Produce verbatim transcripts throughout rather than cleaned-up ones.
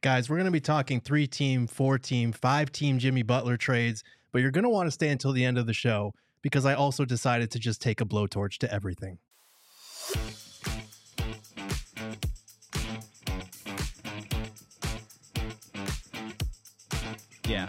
Guys, we're going to be talking three-team, four-team, five-team Jimmy Butler trades, but you're going to want to stay until the end of the show because I also decided to just take a blowtorch to everything. Yeah.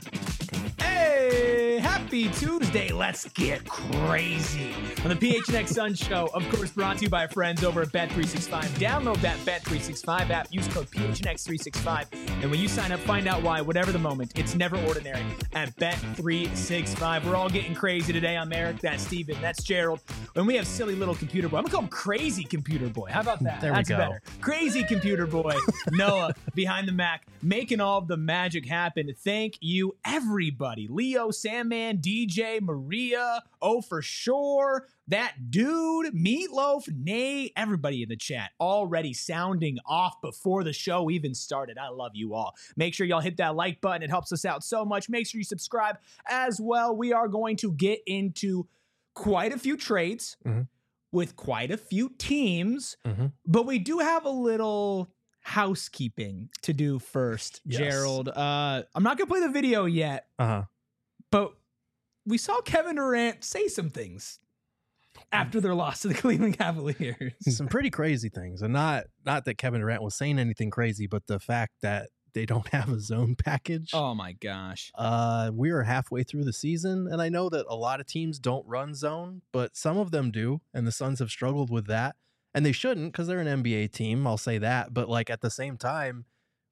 Hey, happy Tuesday. Let's get crazy on the P H N X Sun Show. Of course, brought to you by our friends over at Bet three sixty-five. Download that Bet three sixty-five app. Use code P H N X three sixty-five. And when you sign up, find out why, whatever the moment, it's never ordinary at Bet three sixty-five. We're all getting crazy today. I'm Eric. That's Steven. That's Gerald. And we have silly little computer boy. I'm going to call him Crazy Computer Boy. How about that? There That's we go. better. Crazy Computer Boy. Noah behind the Mac, making all of the magic happen. Thank you, everybody. Leo, Sandman, D J, Maria, Oh For Sure, that dude, Meatloaf, Nate, everybody in the chat already sounding off before the show even started. I love you all. Make sure y'all hit that like button. It helps us out so much. Make sure you subscribe as well. We are going to get into quite a few trades Mhm. with quite a few teams, Mm-hmm. but we do have a little housekeeping to do first, Yes. Gerald. Uh, I'm not going to play the video yet, Uh-huh. but we saw Kevin Durant say some things after their loss to the Cleveland Cavaliers. Some pretty crazy things. And not not that Kevin Durant was saying anything crazy, but the fact that they don't have a zone package. Oh my gosh. Uh, we are halfway through the season, and I know that a lot of teams don't run zone, but some of them do, and the Suns have struggled with that. And they shouldn't because they're an N B A team, I'll say that. But like at the same time,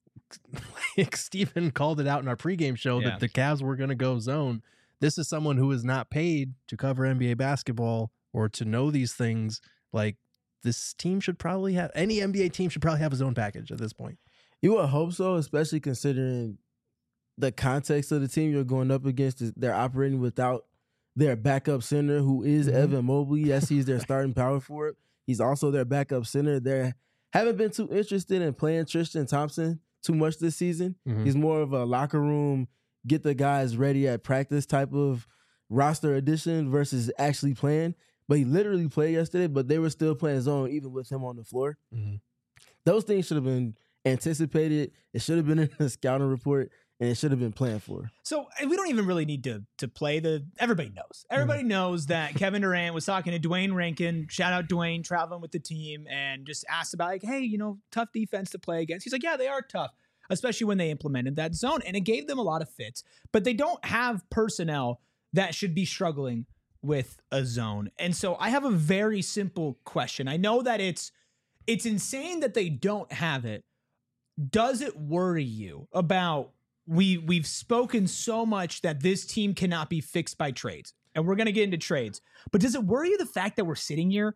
like Steven called it out in our pregame show Yeah. that the Cavs were going to go zone. This is someone who is not paid to cover N B A basketball or to know these things. Like this team should probably have, any N B A team should probably have a zone package at this point. You would hope so, especially considering the context of the team you're going up against. Is they're operating without their backup center, who is Mhm. Evan Mobley. Yes, he's their starting power forward. He's also their backup center. They haven't been too interested in playing Tristan Thompson too much this season. Mhm. He's more of a locker room, get the guys ready at practice type of roster addition versus actually playing. But he literally played yesterday, but they were still playing zone even with him on the floor. Mhm. Those things should have been anticipated. It should have been in the scouting report, and it should have been planned for. So and we don't even really need to to play the. Everybody knows. Everybody knows that Kevin Durant was talking to Dwayne Rankin. Shout out Dwayne, traveling with the team, and just asked about like, hey, you know, tough defense to play against. He's like, yeah, they are tough, especially when they implemented that zone, and it gave them a lot of fits. But they don't have personnel that should be struggling with a zone. And so I have a very simple question. I know that it's it's insane that they don't have it. Does it worry you about we we've spoken so much that this team cannot be fixed by trades, and we're going to get into trades, but does it worry you the fact that we're sitting here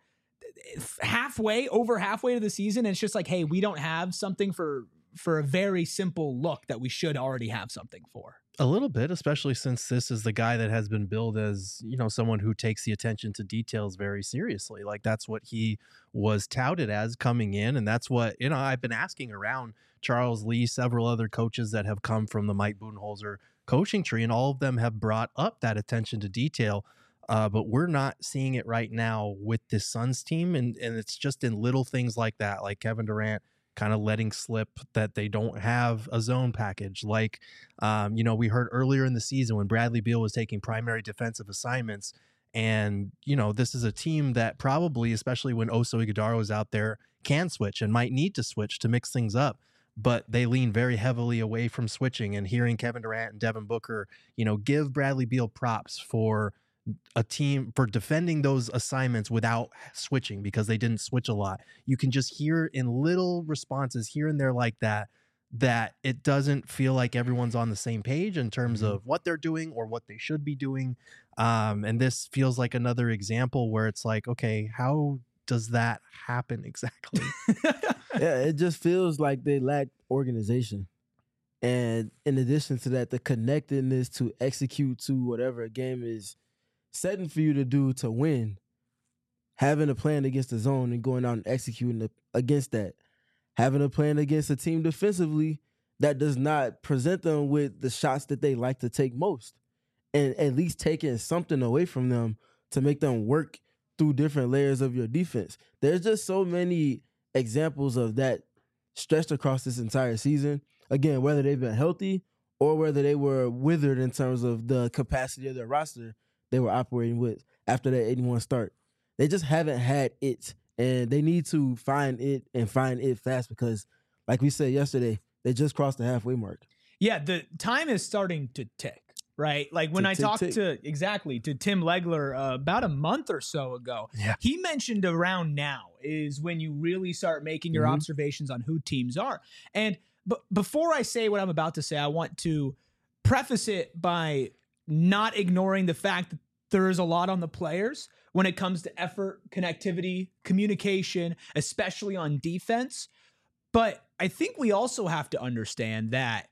halfway over halfway to the season and it's just like, hey, we don't have something for for a very simple look that we should already have something for? A little bit, especially since this is the guy that has been billed as, you know, someone who takes the attention to details very seriously. Like that's what he was touted as coming in. And that's what, you know, I've been asking around Charles Lee, several other coaches that have come from the Mike Budenholzer coaching tree, and all of them have brought up that attention to detail. Uh, but we're not seeing it right now with this Suns team. And, and it's just in little things like that, like Kevin Durant kind of letting slip that they don't have a zone package. Like, um, you know, we heard earlier in the season when Bradley Beal was taking primary defensive assignments. And, you know, this is a team that probably, especially when Oso Ighodaro is out there, can switch and might need to switch to mix things up. But they lean very heavily away from switching, and hearing Kevin Durant and Devin Booker, you know, give Bradley Beal props for a team for defending those assignments without switching because they didn't switch a lot. You can just hear in little responses here and there like that, that it doesn't feel like everyone's on the same page in terms Mhm. of what they're doing or what they should be doing. Um, and this feels like another example where it's like, okay, how does that happen exactly? Yeah, it just feels like they lack organization. And in addition to that, the connectedness to execute to whatever a game is setting for you to do to win, having a plan against the zone and going out and executing the, against that, having a plan against a team defensively that does not present them with the shots that they like to take most, and at least taking something away from them to make them work through different layers of your defense. There's just so many examples of that stretched across this entire season. again, whether they've been healthy or whether they were withered in terms of the capacity of their roster they were operating with after that eighty-one start. They just haven't had it, and they need to find it and find it fast because, like we said yesterday, they just crossed the halfway mark. Yeah, the time is starting to tick, right? Like when Tick, I tick, talked tick. to, exactly, to Tim Legler uh, about a month or so ago, Yeah. he mentioned around now is when you really start making your Mhm. observations on who teams are. And but before I say what I'm about to say, I want to preface it by not ignoring the fact that there is a lot on the players when it comes to effort, connectivity, communication, especially on defense. But I think we also have to understand that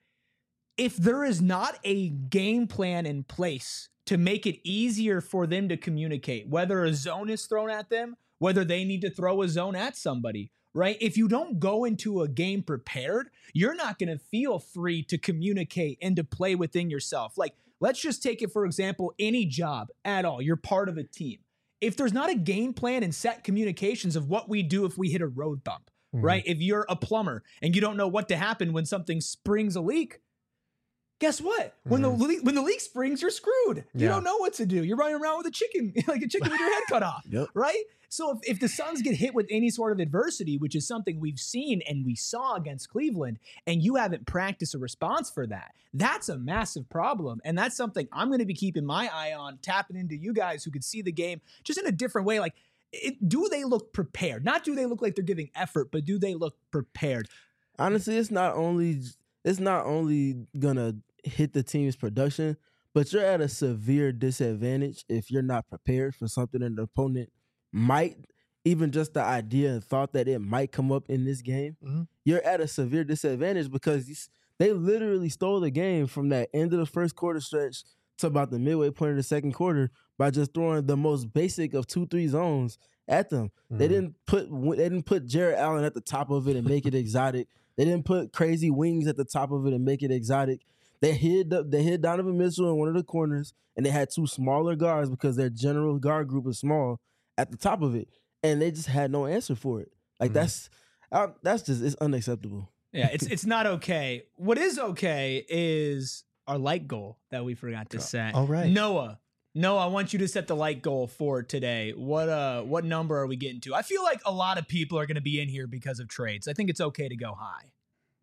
if there is not a game plan in place to make it easier for them to communicate, whether a zone is thrown at them, whether they need to throw a zone at somebody, right? If you don't go into a game prepared, you're not going to feel free to communicate and to play within yourself. Like, let's just take it, for example, any job at all. You're part of a team. If there's not a game plan and set communications of what we do if we hit a road bump, Mhm. right? If you're a plumber and you don't know what to happen when something springs a leak, guess what? When Mhm. the leak, when the leak springs, you're screwed. You Yeah. don't know what to do. You're running around with a chicken, like a chicken with your head cut off, Yep. right? So if, if the Suns get hit with any sort of adversity, which is something we've seen and we saw against Cleveland, and you haven't practiced a response for that, that's a massive problem. And that's something I'm going to be keeping my eye on, tapping into you guys who could see the game just in a different way. Like, it, do they look prepared? Not do they look like they're giving effort, but do they look prepared? Honestly, it's not only it's not only gonna hit the team's production, but you're at a severe disadvantage if you're not prepared for something an opponent might, even just the idea and thought that it might come up in this game. Mhm. You're at a severe disadvantage because these- they literally stole the game from that end of the first quarter stretch to about the midway point of the second quarter by just throwing the most basic of two three zones at them. They Mhm. didn't put they didn't put Jarrett Allen at the top of it and make it exotic. They didn't put crazy wings at the top of it and make it exotic. They hid the, they hid Donovan Mitchell in one of the corners, and they had two smaller guards because their general guard group is small at the top of it, and they just had no answer for it. Like Mhm. that's uh, that's just it's unacceptable. Yeah, it's it's not okay. What is okay is our light goal that we forgot to set. all right. Noah. Noah, I want you to set the light goal for today. What uh what number are we getting to? I feel like a lot of people are going to be in here because of trades. I think it's okay to go high.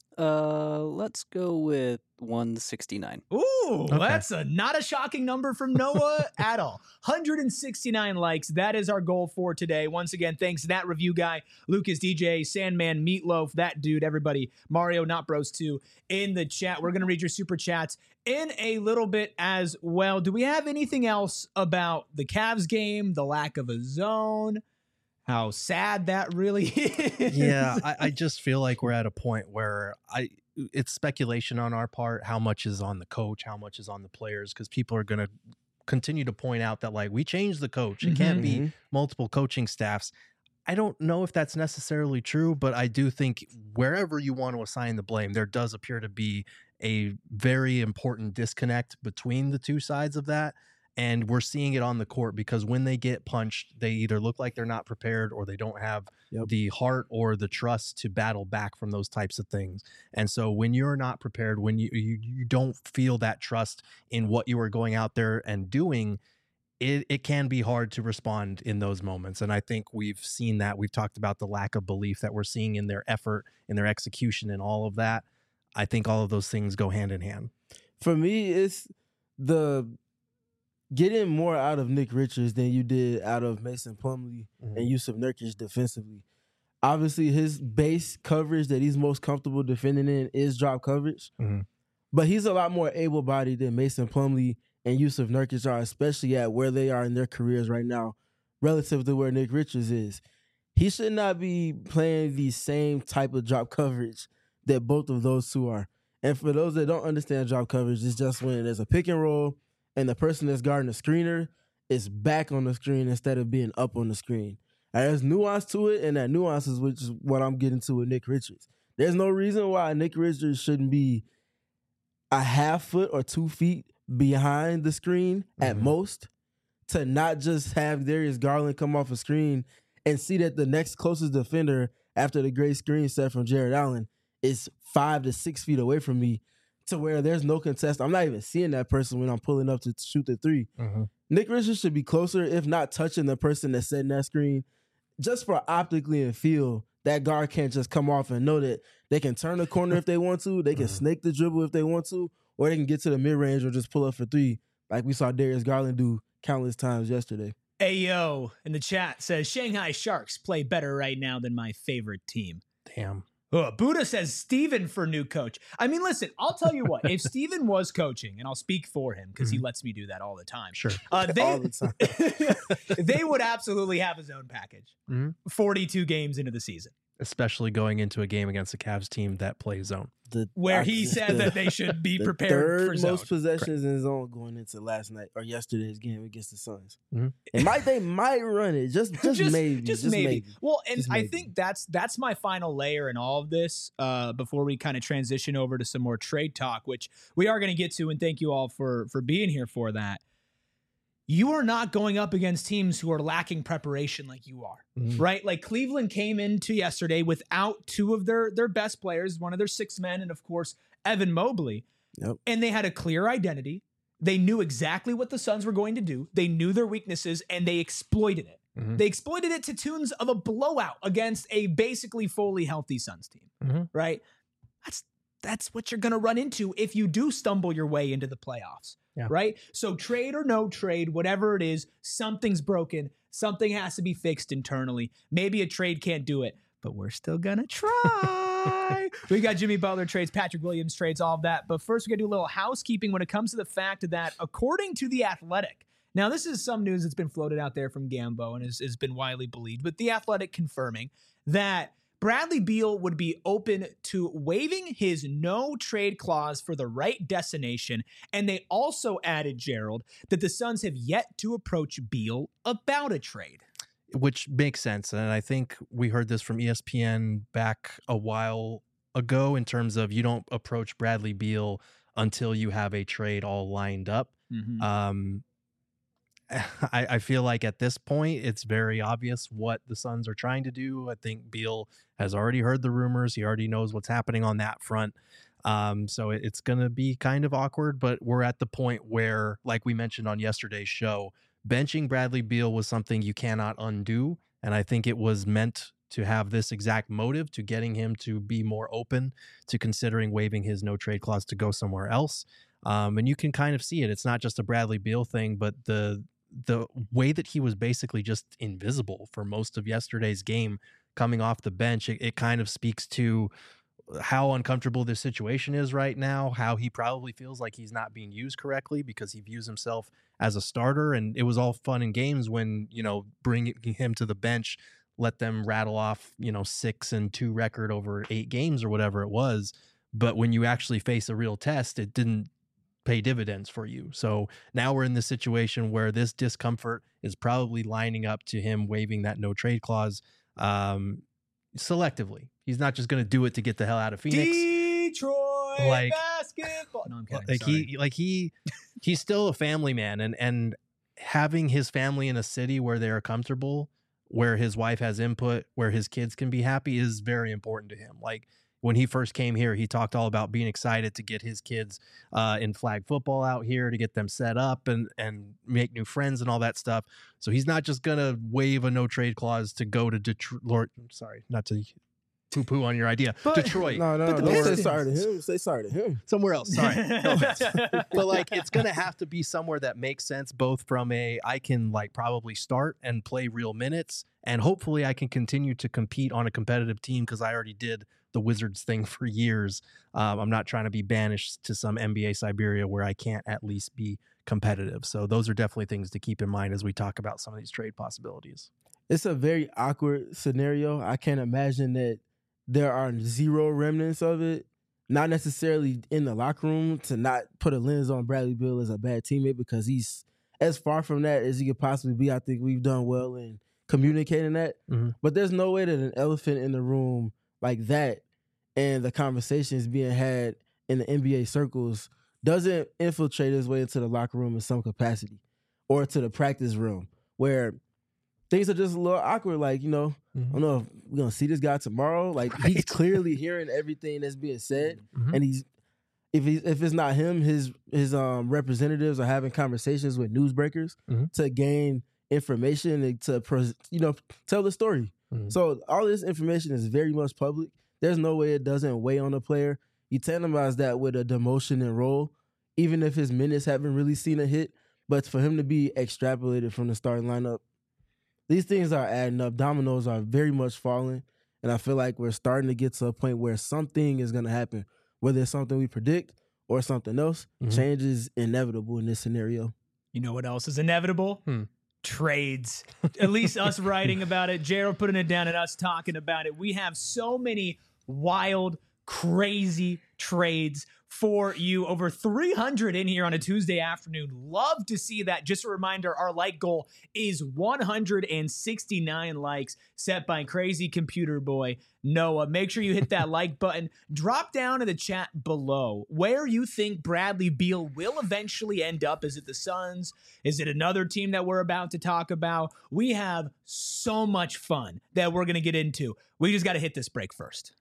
Uh, let's go with one sixty-nine. Ooh, that's a not a shocking number from Noah at all. one hundred sixty-nine likes. That is our goal for today. Once again, thanks to that review guy, Lucas D J, Sandman, Meatloaf, that dude, everybody, Mario Not Bros two in the chat. We're gonna read your super chats in a little bit as well. Do we have anything else about the Cavs game, the lack of a zone? How sad that really is. Yeah, I, I just feel like we're at a point where I it's speculation on our part. How much is on the coach? How much is on the players? Because people are going to continue to point out that like we changed the coach. It can't be Mhm. multiple coaching staffs. I don't know if that's necessarily true, but I do think wherever you want to assign the blame, there does appear to be a very important disconnect between the two sides of that. And we're seeing it on the court because when they get punched, they either look like they're not prepared or they don't have Yep. the heart or the trust to battle back from those types of things. And so when you're not prepared, when you you, you don't feel that trust in what you are going out there and doing, it, it can be hard to respond in those moments. And I think we've seen that. We've talked about the lack of belief that we're seeing in their effort, in their execution, and all of that. I think all of those things go hand in hand. For me, it's the getting more out of Nick Richards than you did out of Mason Plumlee and Yusuf Nurkic defensively. Obviously, his base coverage that he's most comfortable defending in is drop coverage, Mhm. but he's a lot more able-bodied than Mason Plumlee and Yusuf Nurkic are, especially at where they are in their careers right now, relative to where Nick Richards is. He should not be playing the same type of drop coverage that both of those two are. And for those that don't understand drop coverage, it's just when there's a pick and roll and the person that's guarding the screener is back on the screen instead of being up on the screen. And there's nuance to it, and that nuance is which is what I'm getting to with Nick Richards. There's no reason why Nick Richards shouldn't be a half foot or two feet behind the screen at Mhm. most to not just have Darius Garland come off a screen and see that the next closest defender after the great screen set from Jared Allen is five to six feet away from me to where there's no contest. I'm not even seeing that person when I'm pulling up to shoot the three. Mm-hmm. Nick Richards should be closer, if not touching the person that's setting that screen, just for optically and feel. That guard can't just come off and know that they can turn the corner if they want to, they can Mm-hmm. snake the dribble if they want to, or they can get to the mid-range or just pull up for three, like we saw Darius Garland do countless times yesterday. Ayo in the chat says Shanghai Sharks play better right now than my favorite team. Damn. Oh, Buddha says Steven for new coach. I mean, listen, I'll tell you what. If Steven was coaching, and I'll speak for him because he lets me do that all the time. Sure. Uh, they, All the time. they would absolutely have his own package. Mhm. forty-two games into the season. Especially going into a game against the Cavs team that plays zone. The, Where I- he said the- that they should be the prepared third for zone. most possessions in zone going into last night or yesterday's game against the Suns. Mhm. It might they might run it just just, maybe just, just maybe. maybe. Well, and Just I maybe. think that's that's my final layer in all of this. Uh, before we kind of transition over to some more trade talk, which we are going to get to, and thank you all for for being here for that. You are not going up against teams who are lacking preparation like you are, Mhm. right? Like Cleveland came into yesterday without two of their their best players, one of their six men, and of course Evan Mobley. Yep. And they had a clear identity. They knew exactly what the Suns were going to do. They knew their weaknesses, and they exploited it. Mhm. They exploited it to tunes of a blowout against a basically fully healthy Suns team, Mhm. right? That's that's what you're going to run into if you do stumble your way into the playoffs, Yeah. right? So trade or no trade, whatever it is, something's broken. Something has to be fixed internally. Maybe a trade can't do it, but we're still going to try. We got Jimmy Butler trades, Patrick Williams trades, all of that. But first, we're going to do a little housekeeping when it comes to the fact that, according to The Athletic, now this is some news that's been floated out there from Gambo and has, has been widely believed, but The Athletic confirming that Bradley Beal would be open to waiving his no trade clause for the right destination. And they also added, Gerald, that the Suns have yet to approach Beal about a trade. Which makes sense. And I think we heard this from E S P N back a while ago in terms of you don't approach Bradley Beal until you have a trade all lined up. Mm-hmm. Um, I, I feel like at this point, it's very obvious what the Suns are trying to do. I think Beal has already heard the rumors. He already knows what's happening on that front. Um, so it, it's going to be kind of awkward, but we're at the point where, like we mentioned on yesterday's show, benching Bradley Beal was something you cannot undo. And I think it was meant to have this exact motive to getting him to be more open to considering waiving his no trade clause to go somewhere else. Um, and you can kind of see it. It's not just a Bradley Beal thing, but the the way that he was basically just invisible for most of yesterday's game coming off the bench, it, it kind of speaks to how uncomfortable this situation is right now, how he probably feels like he's not being used correctly because he views himself as a starter. And it was all fun and games when, you know, bringing him to the bench, let them rattle off, you know, six and two record over eight games or whatever it was. But when you actually face a real test, it didn't pay dividends for you. So now we're in this situation where this discomfort is probably lining up to him waiving that no trade clause um, selectively. He's not just going to do it to get the hell out of Phoenix. Detroit Like- basketball. No, I'm kidding. Like Sorry. he, like he, he's still a family man, and and having his family in a city where they are comfortable, where his wife has input, where his kids can be happy is very important to him. Like when he first came here, he talked all about being excited to get his kids uh, in flag football out here, to get them set up and and make new friends and all that stuff. So he's not just gonna waive a no trade clause to go to Detroit. Sorry, not to poo poo on your idea. But- Detroit, No, no, But no. the Don't say Pistons- sorry to him. Say sorry to him. somewhere else. Sorry. No, but like it's gonna have to be somewhere that makes sense, both from a I can like probably start and play real minutes, and hopefully I can continue to compete on a competitive team because I already did the Wizards thing for years. Um, I'm not trying to be banished to some N B A Siberia where I can't at least be competitive. So those are definitely things to keep in mind as we talk about some of these trade possibilities. It's a very awkward scenario. I can't imagine that there are zero remnants of it. Not necessarily in the locker room to not put a lens on Bradley Beal as a bad teammate, because he's as far from that as he could possibly be. I think we've done well in communicating that. Mhm. But there's no way that an elephant in the room like that and the conversations being had in the N B A circles doesn't infiltrate his way into the locker room in some capacity or to the practice room where things are just a little awkward. Like, you know, I don't know if we're gonna see this guy tomorrow. Like Right. he's clearly hearing everything that's being said, Mhm. and he's if he if it's not him, his his um representatives are having conversations with newsbreakers Mhm. to gain information and to pres- you know tell the story. Mhm. So all this information is very much public. There's no way it doesn't weigh on the player. You tandemize that with a demotion and role, even if his minutes haven't really seen a hit. But for him to be extrapolated from the starting lineup, these things are adding up. Dominoes are very much falling. And I feel like we're starting to get to a point where something is going to happen. Whether it's something we predict or something else, Mhm. change is inevitable in this scenario. You know what else is inevitable? Hmm. Trades. At least us writing about it, Gerald putting it down, and us talking about it. We have so many wild, crazy trades for you. Over three hundred in here on a Tuesday afternoon. Love to see that. Just a reminder, our like goal is one hundred sixty-nine likes set by Crazy Computer Boy Noah. Make sure you hit that like button. Drop down in the chat below where you think Bradley Beal will eventually end up. Is it the Suns? Is it another team that we're about to talk about? We have so much fun that we're going to get into. We just got to hit this break first.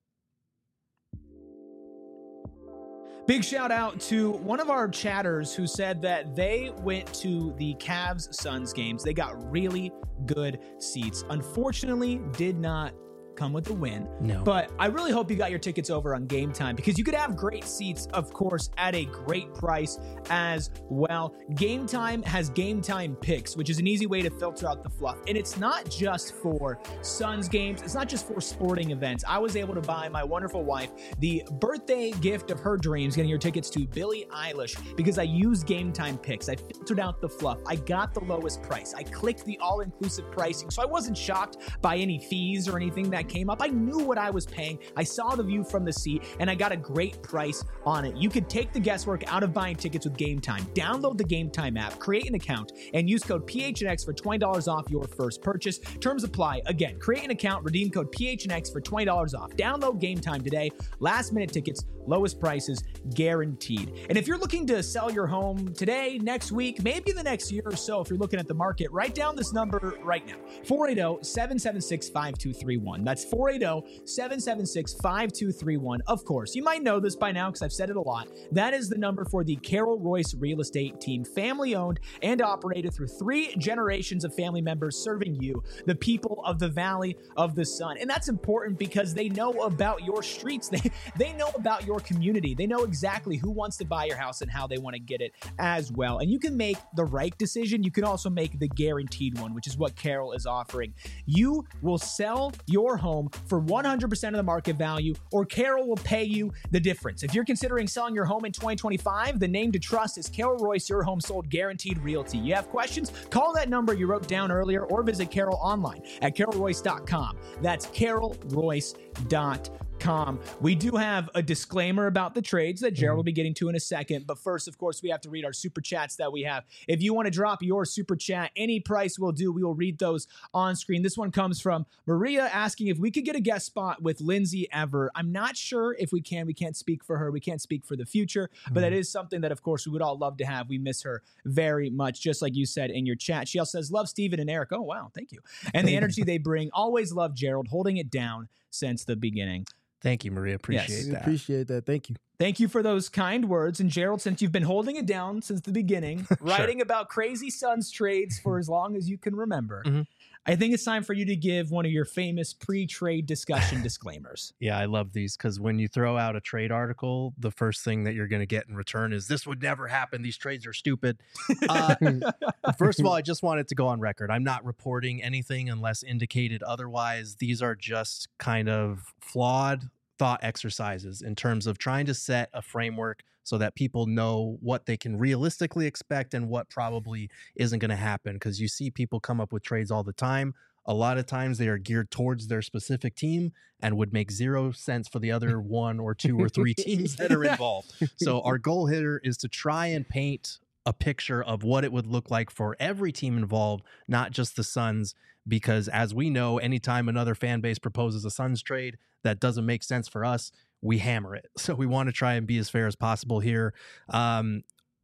Big shout out to one of our chatters who said that they went to the Cavs Suns games. They got really good seats. Unfortunately, did not come with the win. No. But I really hope you got your tickets over on Game Time, because you could have great seats, of course, at a great price as well. Game Time has Game Time Picks, which is an easy way to filter out the fluff. And it's not just for Suns games. It's not just for sporting events. I was able to buy my wonderful wife the birthday gift of her dreams, getting her tickets to Billie Eilish, because I used Game Time Picks. I filtered out the fluff. I got the lowest price. I clicked the all-inclusive pricing, so I wasn't shocked by any fees or anything that came up. I knew what I was paying. I saw the view from the seat, and I got a great price on it. You could take the guesswork out of buying tickets with Game Time. Download the Game Time app, create an account, and use code P H N X for twenty dollars off your first purchase. Terms apply. Again, create an account, redeem code P H N X for twenty dollars off. Download Game Time today. Last minute tickets, lowest prices guaranteed. And if you're looking to sell your home today, next week, maybe the next year or so, if you're looking at the market, write down this number right now: four eight zero, seven seven six, five two three one. That's four eight zero, seven seven six, five two three one. Of course, you might know this by now because I've said it a lot. That is the number for the Carol Royce Real Estate Team, family owned and operated through three generations of family members serving you, the people of the Valley of the Sun. And that's important because they know about your streets. They, they know about your community. They know exactly who wants to buy your house and how they want to get it as well. And you can make the right decision. You can also make the guaranteed one, which is what Carol is offering. You will sell your home for one hundred percent of the market value, or Carol will pay you the difference. If you're considering selling your home in twenty twenty-five, the name to trust is Carol Royce, your home sold guaranteed realty. You have questions? Call that number you wrote down earlier, or visit Carol online at carol royce dot com. That's carol royce dot com. We do have a disclaimer about the trades that Gerald will be getting to in a second. But first, of course, we have to read our super chats that we have. If you want to drop your super chat, any price will do. We will read those on screen. This one comes from Maria asking if we could get a guest spot with Lindsay Ever. I'm not sure if we can. We can't speak for her. We can't speak for the future. But that is something that, of course, we would all love to have. We miss her very much, just like you said in your chat. She also says, love Steven and Eric. Oh, wow. Thank you. And the energy they bring. Always love Gerald, holding it down since the beginning. Thank you, Maria. Appreciate Yes. We that. appreciate that. Thank you. Thank you for those kind words. And Gerald, since you've been holding it down since the beginning, writing about crazy Suns trades for as long as you can remember, Mhm. I think it's time for you to give one of your famous pre-trade discussion disclaimers. Yeah, I love these because when you throw out a trade article, the first thing that you're going to get in return is this would never happen. These trades are stupid. Uh, first of all, I just wanted to go on record. I'm not reporting anything unless indicated otherwise. These are just kind of flawed thought exercises in terms of trying to set a framework so that people know what they can realistically expect and what probably isn't going to happen. Because you see people come up with trades all the time. A lot of times they are geared towards their specific team and would make zero sense for the other one or two or three teams that are involved. So our goal here is to try and paint a picture of what it would look like for every team involved, not just the Suns, because as we know, anytime another fan base proposes a Suns trade that doesn't make sense for us, we hammer it. So we want to try and be as fair as possible here. Um,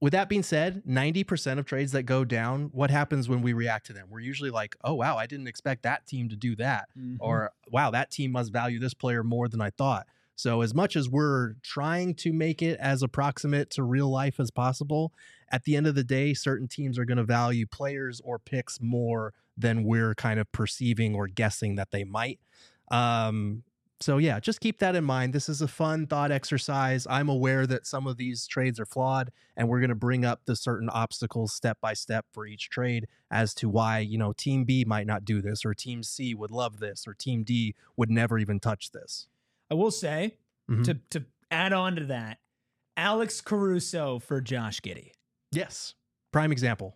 with that being said, ninety percent of trades that go down, what happens when we react to them? We're usually like, oh, wow, I didn't expect that team to do that. Mm-hmm. Or, wow, that team must value this player more than I thought. So as much as we're trying to make it as approximate to real life as possible, at the end of the day, certain teams are going to value players or picks more than we're kind of perceiving or guessing that they might. Um, so yeah, just keep that in mind. This is a fun thought exercise. I'm aware that some of these trades are flawed, and we're going to bring up the certain obstacles step by step for each trade as to why, you know, team B might not do this, or team C would love this, or team D would never even touch this. I will say, mm-hmm. to to add on to that, Alex Caruso for Josh Giddey. Yes. Prime example.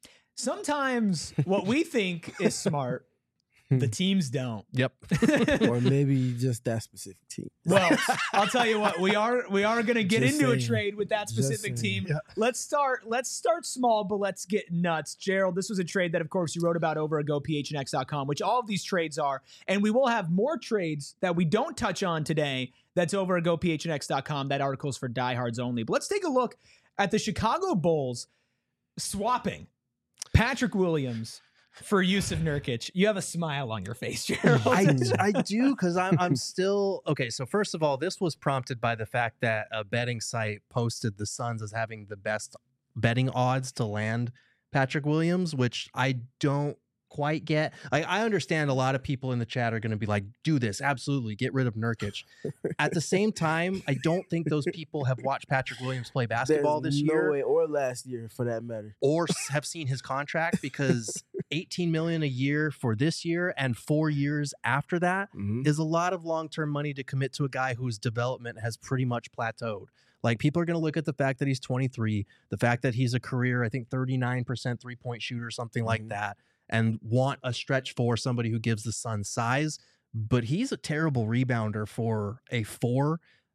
Sometimes what we think is smart, the teams don't. Yep. Or maybe just that specific team. Well, I'll tell you what, we are we are going to get just into saying. a trade with that specific team. Yeah. Let's start let's start small, but let's get nuts. Gerald, this was a trade that, of course, you wrote about over at go p h n x dot com, which all of these trades are. And we will have more trades that we don't touch on today. That's over at go p h n x dot com. That article's for diehards only. But let's take a look at the Chicago Bulls swapping Patrick Williams for Jusuf Nurkic. You have a smile on your face, Gerald. I, I do, because I'm I'm still okay. So first of all, this was prompted by the fact that a betting site posted the Suns as having the best betting odds to land Patrick Williams, which I don't quite get. Like, I understand a lot of people in the chat are going to be like, do this, absolutely, get rid of Nurkic. At the same time, I don't think those people have watched Patrick Williams play basketball There's this no year, way, or last year for that matter, or have seen his contract, because eighteen million dollars a year for this year and four years after that mm-hmm. is a lot of long-term money to commit to a guy whose development has pretty much plateaued. Like, people are going to look at the fact that he's twenty-three, the fact that he's a career, I think, thirty-nine percent three-point shooter, something mm-hmm. like that, and want a stretch for somebody who gives the Suns size. But he's a terrible rebounder for a four.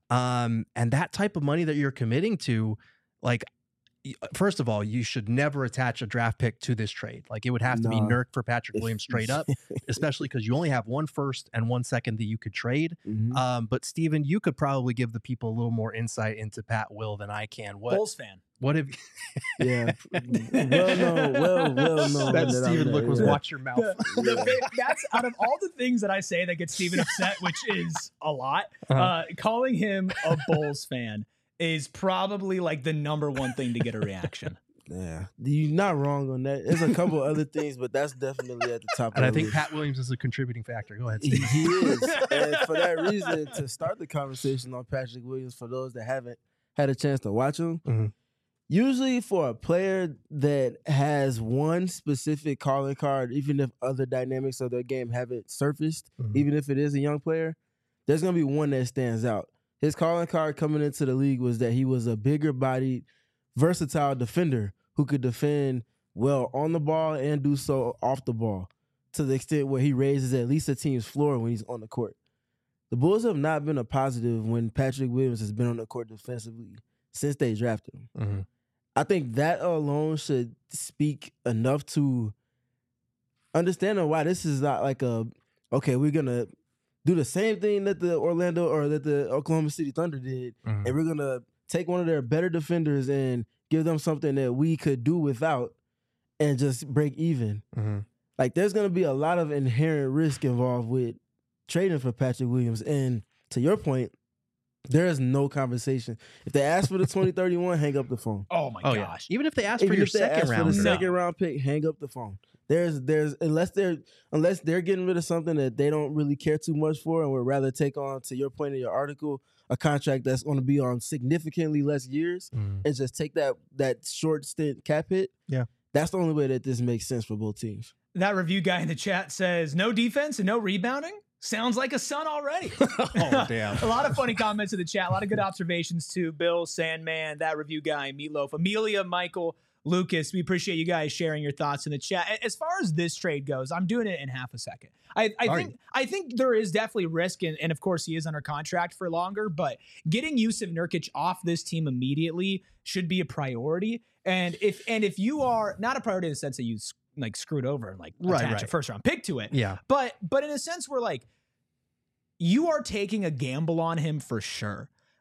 Um, and that type of money that you're committing to, like, first of all, you should never attach a draft pick to this trade. Like, it would have to no. be Nurk for Patrick Williams straight up, especially because you only have one first and one second that you could trade. Mm-hmm. Um, but Steven, you could probably give the people a little more insight into Pat Will than I can. What, Bulls fan. What have yeah. well known, well, well known. That, that Steven look was yeah. watch your mouth. The, the, that's out of all the things that I say that gets Steven upset, which is a lot, uh-huh. uh, calling him a Bulls fan is probably like the number one thing to get a reaction. Yeah, you're not wrong on that. There's a couple other things, but that's definitely at the top. And of I think list. Pat Williams is a contributing factor. Go ahead, Steve. Steve. He is, and for that reason, to start the conversation on Patrick Williams, for those that haven't had a chance to watch him, mm-hmm. usually for a player that has one specific calling card, even if other dynamics of their game haven't surfaced, mm-hmm. even if it is a young player, there's going to be one that stands out. His calling card coming into the league was that he was a bigger-bodied, versatile defender who could defend well on the ball and do so off the ball, to the extent where he raises at least a team's floor when he's on the court. The Bulls have not been a positive when Patrick Williams has been on the court defensively since they drafted him. Mm-hmm. I think that alone should speak enough to understanding why this is not like a, okay, we're going to do the same thing that the Orlando or that the Oklahoma City Thunder did, mm-hmm. and we're going to take one of their better defenders and give them something that we could do without and just break even. Mm-hmm. Like, there's going to be a lot of inherent risk involved with trading for Patrick Williams. And to your point, there is no conversation. If they ask for the twenty thirty-one, hang up the phone. Oh, my oh, gosh. Yeah. Even if they ask Even for your if they second ask round. For the no. second round pick, hang up the phone. There's, there's unless they're unless they're getting rid of something that they don't really care too much for, and would rather take on, to your point in your article, a contract that's going to be on significantly less years, mm. and just take that that short stint cap hit. Yeah, that's the only way that this makes sense for both teams. That review guy in the chat says no defense and no rebounding. Sounds like a Sun already. Oh, damn. A lot of funny comments in the chat. A lot of good observations too. Bill, Sandman, that review guy, Meatloaf, Amelia, Michael, Lucas. We appreciate you guys sharing your thoughts in the chat. As far as this trade goes, I'm doing it in half a second. I, I think you? I think there is definitely risk, and, and of course he is under contract for longer, but getting Jusuf Nurkic off this team immediately should be a priority. And if and if you are not a priority in the sense that you like screwed over and like right, attach right. a first round pick to it. Yeah. But but in a sense where like you are taking a gamble on him for sure.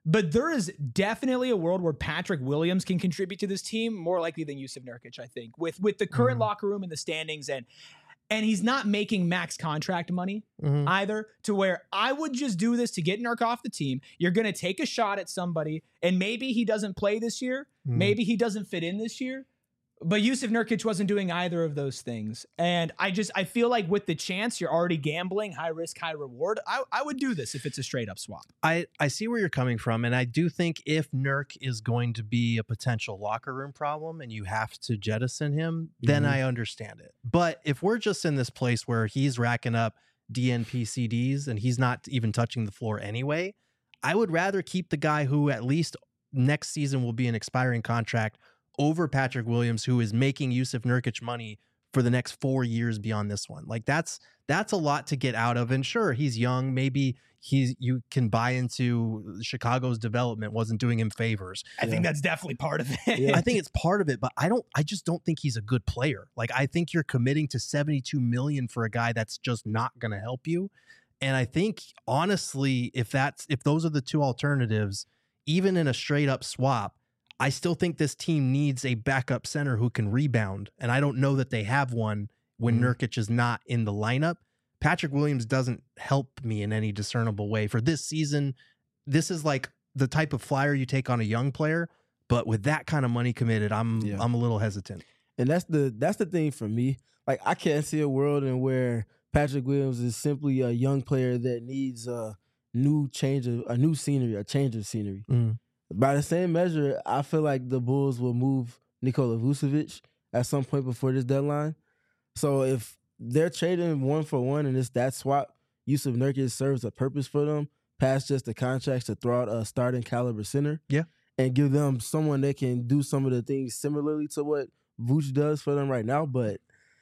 But there is definitely a world where Patrick Williams can contribute to this team more likely than Jusuf Nurkic, I think, with with the current Mm-hmm. locker room and the standings. And and he's not making max contract money Mhm. either, to where I would just do this to get Nurk off the team. You're going to take a shot at somebody, and maybe he doesn't play this year. Mhm. Maybe he doesn't fit in this year. But Jusuf Nurkic wasn't doing either of those things. And I just, I feel like with the chance, you're already gambling, high risk, high reward. I, I would do this if it's a straight up swap. I, I see where you're coming from, and I do think if Nurk is going to be a potential locker room problem and you have to jettison him, then Mhm. I understand it. But if we're just in this place where he's racking up D N P C Ds and he's not even touching the floor anyway, I would rather keep the guy who at least next season will be an expiring contract over Patrick Williams, who is making Jusuf Nurkic money for the next four years beyond this one. Like that's that's a lot to get out of. And sure, he's young. Maybe he's you can buy into Chicago's development wasn't doing him favors. I Yeah. think that's definitely part of it. Yeah. I think it's part of it, but I don't I just don't think he's a good player. Like I think you're committing to seventy-two million for a guy that's just not going to help you. And I think honestly, if that's if those are the two alternatives, even in a straight up swap, I still think this team needs a backup center who can rebound. And I don't know that they have one when Mhm. Nurkic is not in the lineup. Patrick Williams doesn't help me in any discernible way for this season. This is like the type of flyer you take on a young player, but with that kind of money committed, I'm Yeah. I'm a little hesitant. And that's the that's the thing for me. Like I can't see a world in where Patrick Williams is simply a young player that needs a new change of a new scenery, a change of scenery. Mm. By the same measure, I feel like the Bulls will move Nikola Vucevic at some point before this deadline. So if they're trading one for one and it's that swap, Jusuf Nurkic serves a purpose for them, past just the contracts to throw out a starting caliber center. Yeah. And give them someone that can do some of the things similarly to what Vooch does for them right now. But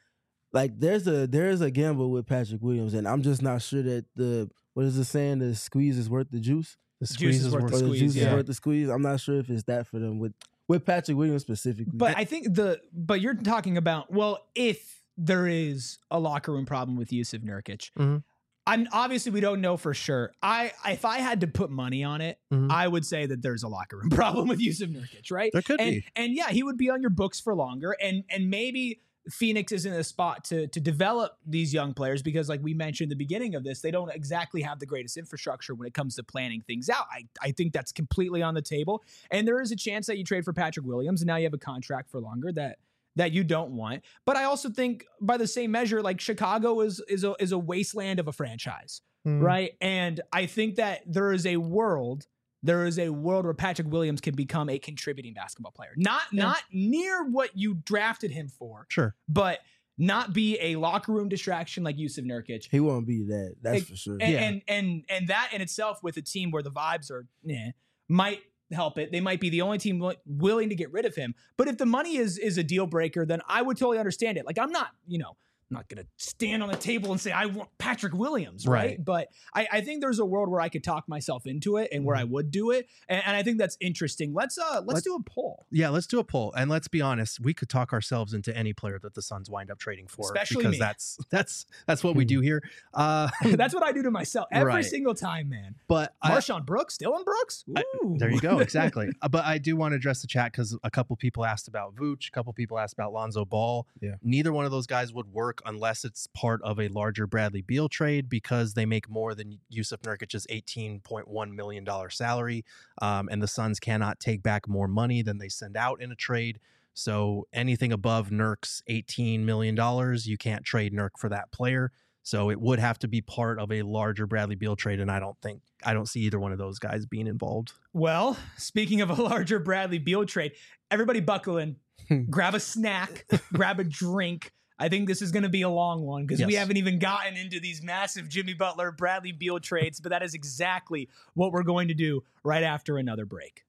like there's a there's a gamble with Patrick Williams, and I'm just not sure that the what is the saying, the squeeze is worth the juice? The Juice squeeze is is worth worth the Or the squeeze, juice yeah. is worth the squeeze. I'm not sure if it's that for them with with Patrick Williams specifically. But I think the but you're talking about, well, if there is a locker room problem with Jusuf Nurkic, Mhm. I'm obviously we don't know for sure. I if I had to put money on it, Mhm. I would say that there's a locker room problem with Jusuf Nurkic, right? There could and, be. And yeah, he would be on your books for longer, and and maybe Phoenix is in a spot to to develop these young players because, like we mentioned at the beginning of this, they don't exactly have the greatest infrastructure when it comes to planning things out. I, I think that's completely on the table. And there is a chance that you trade for Patrick Williams and now you have a contract for longer that that you don't want. But I also think by the same measure, like Chicago is is a is a wasteland of a franchise, Mm. right? And I think that there is a world There is a world where Patrick Williams can become a contributing basketball player. Not Yeah. not near what you drafted him for, Sure. but not be a locker room distraction like Jusuf Nurkic. he won't be that. That's Like, for sure. And, Yeah. and and and that in itself, with a team where the vibes are, nah, might help it. They might be the only team wi- willing to get rid of him. But if the money is is a deal breaker, then I would totally understand it. Like I'm not, you know, I'm not gonna stand on the table and say I want Patrick Williams, right? Right. But I, I think there's a world where I could talk myself into it and where I would do it, and, and I think that's interesting. Let's uh let's Let- do a poll. Yeah, let's do a poll. And let's be honest, we could talk ourselves into any player that the Suns wind up trading for. Especially because me. that's that's that's what we do here. Uh That's what I do to myself every Right. single time, man. but I, Marshawn Brooks, Dylan Brooks. I- Ooh. there you go, exactly. Uh, but I do want to address the chat because a couple people asked about Vooch, a couple people asked about Lonzo Ball. Yeah. Neither one of those guys would work unless it's part of a larger Bradley Beal trade because they make more than Jusuf Nurkic's eighteen point one million dollars salary. Um, and the Suns cannot take back more money than they send out in a trade. So anything above Nurk's eighteen million dollars, you can't trade Nurk for that player. So it would have to be part of a larger Bradley Beal trade. And I don't think, I don't see either one of those guys being involved. Well, speaking of a larger Bradley Beal trade, everybody buckle in, grab a snack, grab a drink. I think this is going to be a long one because we Yes. haven't even gotten into these massive Jimmy Butler, Bradley Beal trades, but that is exactly what we're going to do right after another break.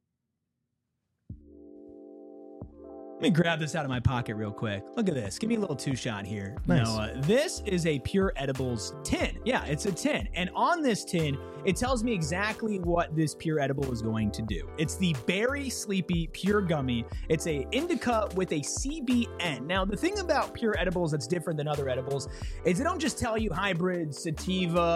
Let me grab this out of my pocket real quick. Look at this. Give me a little two shot here. Nice. Noah. This is a Pure Edibles tin. Yeah, it's a tin. And on this tin, it tells me exactly what this Pure Edible is going to do. It's the Berry Sleepy Pure Gummy. It's a indica with a C B N. Now, the thing about Pure Edibles that's different than other edibles is they don't just tell you hybrid, sativa,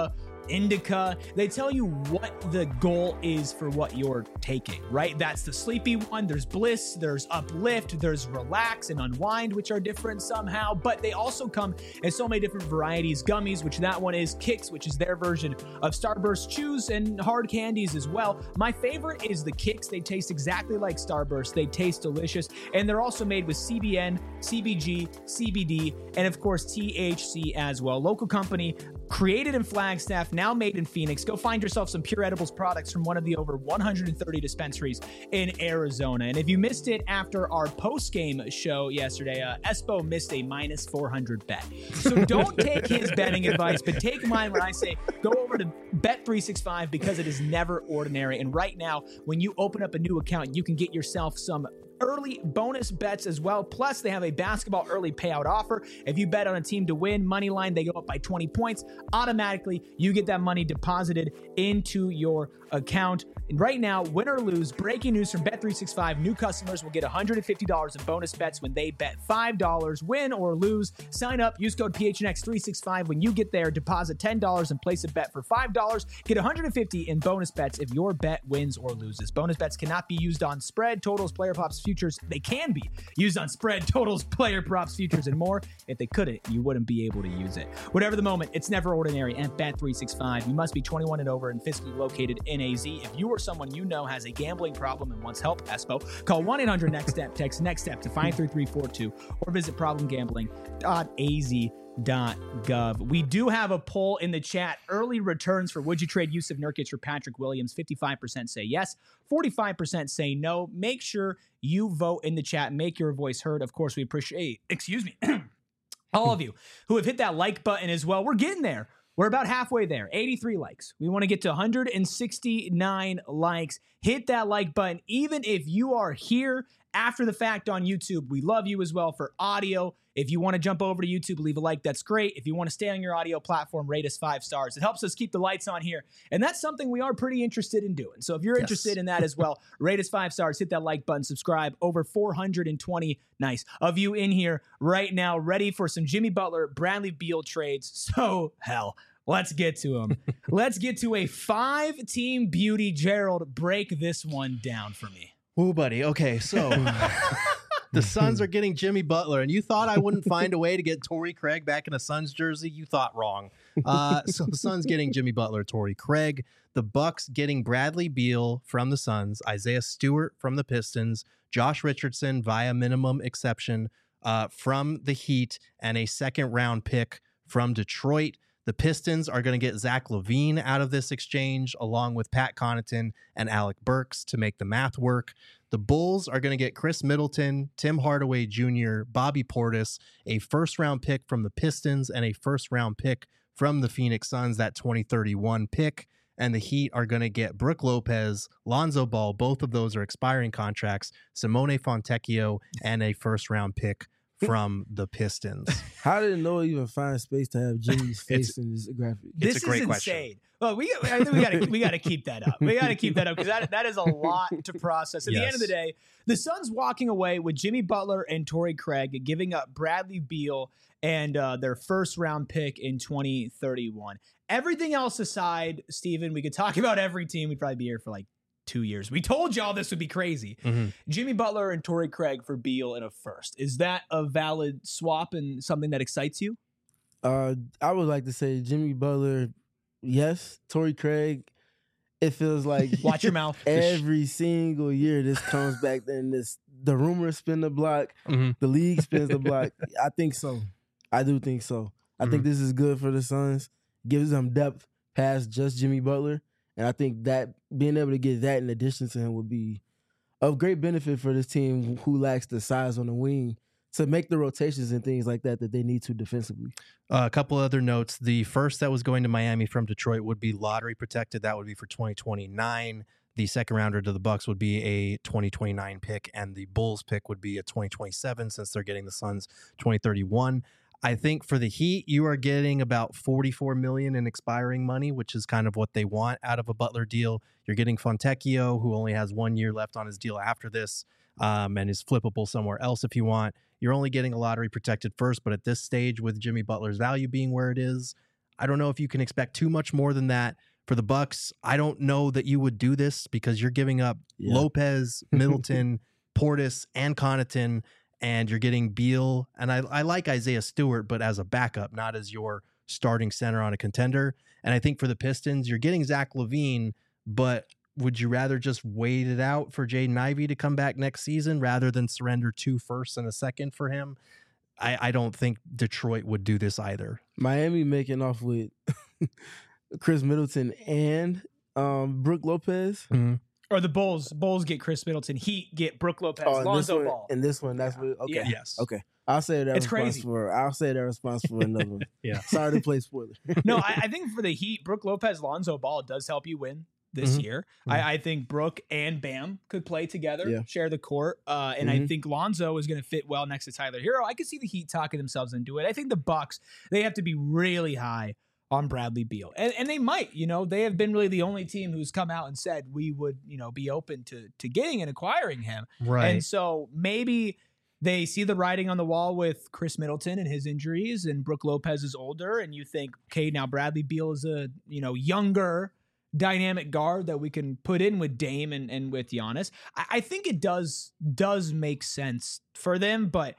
indica. They tell you what the goal is for what you're taking, right? That's the sleepy one. There's bliss, there's uplift, there's relax and unwind, which are different somehow, but they also come in so many different varieties. Gummies, which that one is, Kicks, which is their version of Starburst chews, and hard candies as well. My favorite is the Kicks. They taste exactly like Starburst. They taste delicious, and they're also made with C B N, C B G, C B D, and of course T H C as well. Local company, created in Flagstaff, now made in Phoenix. Go find yourself some Pure Edibles products from one of the over one hundred thirty dispensaries in Arizona. And if you missed it after our post-game show yesterday, uh, Espo missed a minus four hundred bet. So don't take his betting advice, but take mine when I say go over to Bet three sixty-five, because it is never ordinary. And right now, when you open up a new account, you can get yourself some early bonus bets as well. Plus, they have a basketball early payout offer. If you bet on a team to win, money line, they go up by twenty points. Automatically, you get that money deposited into your account. And right now, win or lose, breaking news from Bet three sixty-five, new customers will get one hundred fifty dollars in bonus bets when they bet five dollars. Win or lose, sign up, use code P H N X three sixty-five when you get there, deposit ten dollars and place a bet for five dollars. Get one hundred fifty dollars in bonus bets if your bet wins or loses. Bonus bets cannot be used on spread, totals, player props, futures. They can be used on spread, totals, player props, futures, and more. If they couldn't, you wouldn't be able to use it. Whatever the moment, it's never ordinary at Bet three sixty-five. You must be twenty-one and over and fiscally located in A Z. If you or someone you know has a gambling problem and wants help, Espo, call one eight hundred next step, text next step to five three three four two, or visit problem gambling dot a z dot gov. We do have a poll in the chat. Early returns for would you trade Yusuf Nurkic for Patrick Williams? fifty-five percent say yes, forty-five percent say no. Make sure you vote in the chat. Make your voice heard. Of course, we appreciate, excuse me, all of you who have hit that like button as well. We're getting there. We're about halfway there. eighty-three likes. We want to get to one hundred sixty-nine likes. Hit that like button. Even if you are here after the fact on YouTube, we love you as well for audio. If you want to jump over to YouTube, leave a like. That's great. If you want to stay on your audio platform, rate us five stars. It helps us keep the lights on here. And that's something we are pretty interested in doing. So if you're yes. interested in that as well, rate us five stars, hit that like button, subscribe. Over four hundred twenty, nice, of you in here right now, ready for some Jimmy Butler, Bradley Beal trades. So, hell, let's get to them. Let's get to a five-team beauty. Gerald, break this one down for me. Ooh, buddy. Okay, so the Suns are getting Jimmy Butler, and you thought I wouldn't find a way to get Torrey Craig back in a Suns jersey? You thought wrong. Uh, so the Suns getting Jimmy Butler, Torrey Craig. The Bucks getting Bradley Beal from the Suns, Isaiah Stewart from the Pistons, Josh Richardson via minimum exception uh, from the Heat, and a second-round pick from Detroit. The Pistons are going to get Zach LaVine out of this exchange, along with Pat Connaughton and Alec Burks to make the math work. The Bulls are going to get Chris Middleton, Tim Hardaway Junior, Bobby Portis, a first-round pick from the Pistons, and a first-round pick from the Phoenix Suns, that twenty thirty-one pick. And the Heat are going to get Brook Lopez, Lonzo Ball, both of those are expiring contracts, Simone Fontecchio, and a first-round pick from the Pistons. How did Noah even find space to have Jimmy's face It's- in this graphic? It's This a great is question. insane. Well, we I think we got to we got to keep that up. We got to keep that up because that that is a lot to process. At the end of the Yes. day, the Suns walking away with Jimmy Butler and Torrey Craig, giving up Bradley Beal and uh, their first round pick in twenty thirty-one. Everything else aside, Steven, we could talk about every team. We'd probably be here for like two years. We told y'all this would be crazy. Mm-hmm. Jimmy Butler and Torrey Craig for Beal in a first. Is that a valid swap and something that excites you? Uh, I would like to say Jimmy Butler, yes. Torrey Craig, it feels like Watch your mouth. every single year this comes back and this the rumors spin the block, Mhm. the league spins the block. I think so. I do think so. I think this is good for the Suns. Gives them depth past just Jimmy Butler. And I think that being able to get that in addition to him would be of great benefit for this team who lacks the size on the wing to make the rotations and things like that that they need to defensively. Uh, a couple other notes. The first that was going to Miami from Detroit would be lottery protected. That would be for twenty twenty-nine. The second rounder to the Bucks would be a twenty twenty-nine pick, and the Bulls pick would be a twenty twenty-seven since they're getting the Suns twenty thirty-one. I think for the Heat, you are getting about forty-four million dollars in expiring money, which is kind of what they want out of a Butler deal. You're getting Fontecchio, who only has one year left on his deal after this, um, and is flippable somewhere else if you want. You're only getting a lottery protected first, but at this stage, with Jimmy Butler's value being where it is, I don't know if you can expect too much more than that. For the Bucks, I don't know that you would do this because you're giving up Yeah. Lopez, Middleton, Portis, and Connaughton, and you're getting Beal. And I, I like Isaiah Stewart, but as a backup, not as your starting center on a contender. And I think for the Pistons, you're getting Zach LaVine, but would you rather just wait it out for Jaden Ivey to come back next season rather than surrender two firsts and a second for him? I, I don't think Detroit would do this either. Miami making off with Chris Middleton and um, Brook Lopez. Mm-hmm. Or the Bulls. Bulls get Chris Middleton. Heat get Brook Lopez. Oh, and this Lonzo one, Ball. and this one, that's Yeah. what. Okay, Yeah. Yes. okay. I'll say that It's response crazy. for. I'll say that response for another one. Yeah. Sorry to play spoiler. No, I, I think for the Heat, Brook Lopez, Lonzo Ball does help you win this Mhm. year. Mhm. I, I think Brook and Bam could play together, Yeah. share the court. Uh, and I Mhm. think Lonzo is going to fit well next to Tyler Hero. I could see the Heat talking themselves into it. I think the Bucks, they have to be really high on Bradley Beal. And, and they might, you know, they have been really the only team who's come out and said we would, you know, be open to to getting and acquiring him. Right. And so maybe they see the writing on the wall with Chris Middleton and his injuries, and Brook Lopez is older, and you think, okay, now Bradley Beal is a, you know, younger dynamic guard that we can put in with Dame and, and with Giannis. I, I think it does does make sense for them, but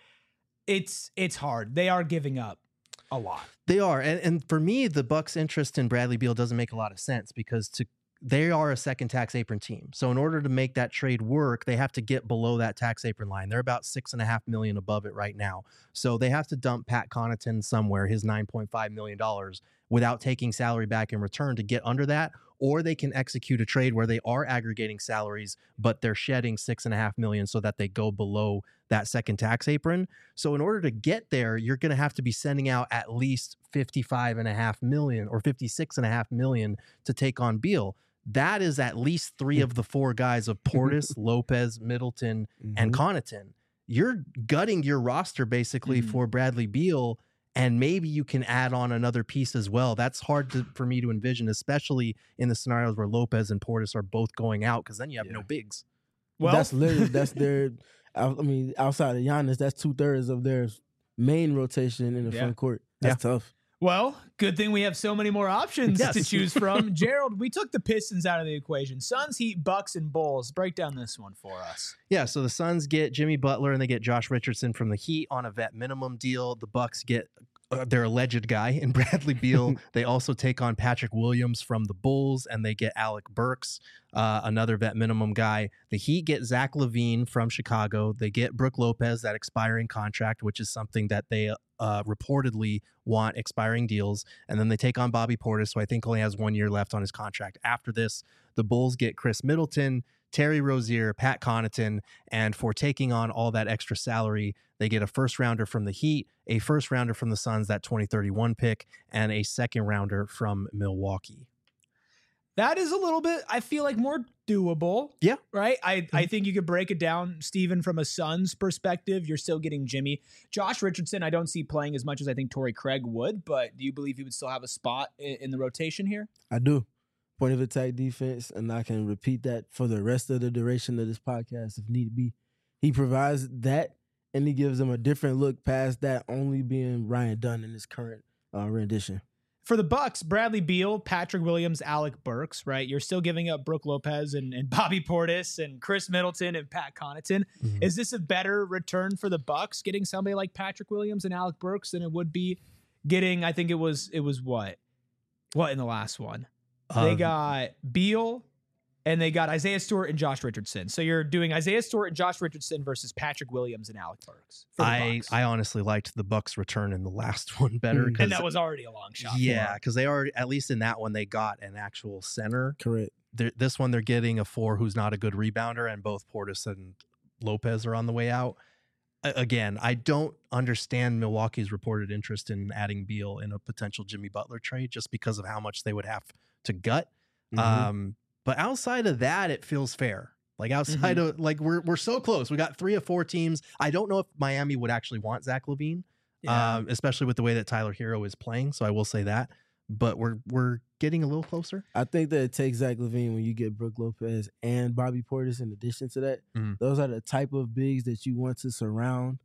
it's it's hard. They are giving up a lot. They are. And, and for me, the Bucks' interest in Bradley Beal doesn't make a lot of sense because to they are a second tax apron team. So in order to make that trade work, they have to get below that tax apron line. They're about six and a half million above it right now. So they have to dump Pat Connaughton somewhere, his nine point five million dollars, without taking salary back in return to get under that. Or they can execute a trade where they are aggregating salaries, but they're shedding six and a half million so that they go below that second tax apron. So in order to get there, you're going to have to be sending out at least fifty-five and a half million or fifty-six and a half million to take on Beal. That is at least three of the four guys of Portis, Lopez, Middleton, and Mhm. Connaughton. You're gutting your roster basically Mhm. for Bradley Beal, and maybe you can add on another piece as well. That's hard to, for me to envision, especially in the scenarios where Lopez and Portis are both going out, because then you have Yeah. no bigs. Well, that's literally that's their. I I mean, outside of Giannis, that's two thirds of their main rotation in the Yeah. front court. That's tough. Well, good thing we have so many more options Yes. to choose from. Gerald, we took the Pistons out of the equation. Suns, Heat, Bucks, and Bulls. Break down this one for us. Yeah, so the Suns get Jimmy Butler and they get Josh Richardson from the Heat on a vet minimum deal. The Bucks get uh, their alleged guy in Bradley Beal. They also take on Patrick Williams from the Bulls, and they get Alec Burks, uh, another vet minimum guy. The Heat get Zach LaVine from Chicago. They get Brook Lopez, that expiring contract, which is something that they uh, reportedly want expiring deals. And then they take on Bobby Portis, who I think only has one year left on his contract. After this, the Bulls get Chris Middleton, Terry Rozier, Pat Connaughton, and for taking on all that extra salary, they get a first rounder from the Heat, a first rounder from the Suns, that twenty thirty-one pick, and a second rounder from Milwaukee. That is a little bit, I feel like, more doable. Yeah. Right? I, I think you could break it down, Steven, from a Suns perspective. You're still getting Jimmy. Josh Richardson, I don't see playing as much as I think Torrey Craig would, but do you believe he would still have a spot in, in the rotation here? I do. Point of attack defense, and I can repeat that for the rest of the duration of this podcast if need be. He provides that, and he gives them a different look past that only being Ryan Dunn in his current uh, rendition. For the Bucks, Bradley Beal, Patrick Williams, Alec Burks, right? You're still giving up Brook Lopez and, and Bobby Portis and Chris Middleton and Pat Connaughton. Mhm. Is this a better return for the Bucks getting somebody like Patrick Williams and Alec Burks than it would be getting, I think it was, it was what? What in the last one? They Uh, got Beal and they got Isaiah Stewart and Josh Richardson. So you're doing Isaiah Stewart and Josh Richardson versus Patrick Williams and Alec Burks. For the I, Bucks. I honestly liked the Bucks return in the last one better. Mhm. 'cause- and that was already a long shot. for yeah, them. because they already, at least in that one, they got an actual center. Correct. They're, this one, they're getting a four who's not a good rebounder, and both Portis and Lopez are on the way out. A- Again, I don't understand Milwaukee's reported interest in adding Beal in a potential Jimmy Butler trade just because of how much they would have to gut. Mhm. Um, but outside of that, it feels fair. Like outside of like we're we're so close. We got three of four teams. I don't know if Miami would actually want Zach LaVine, Yeah. um, especially with the way that Tyler Hero is playing. So I will say that. But we're we're getting a little closer. I think that it takes Zach LaVine when you get Brook Lopez and Bobby Portis in addition to that. Mhm. Those are the type of bigs that you want to surround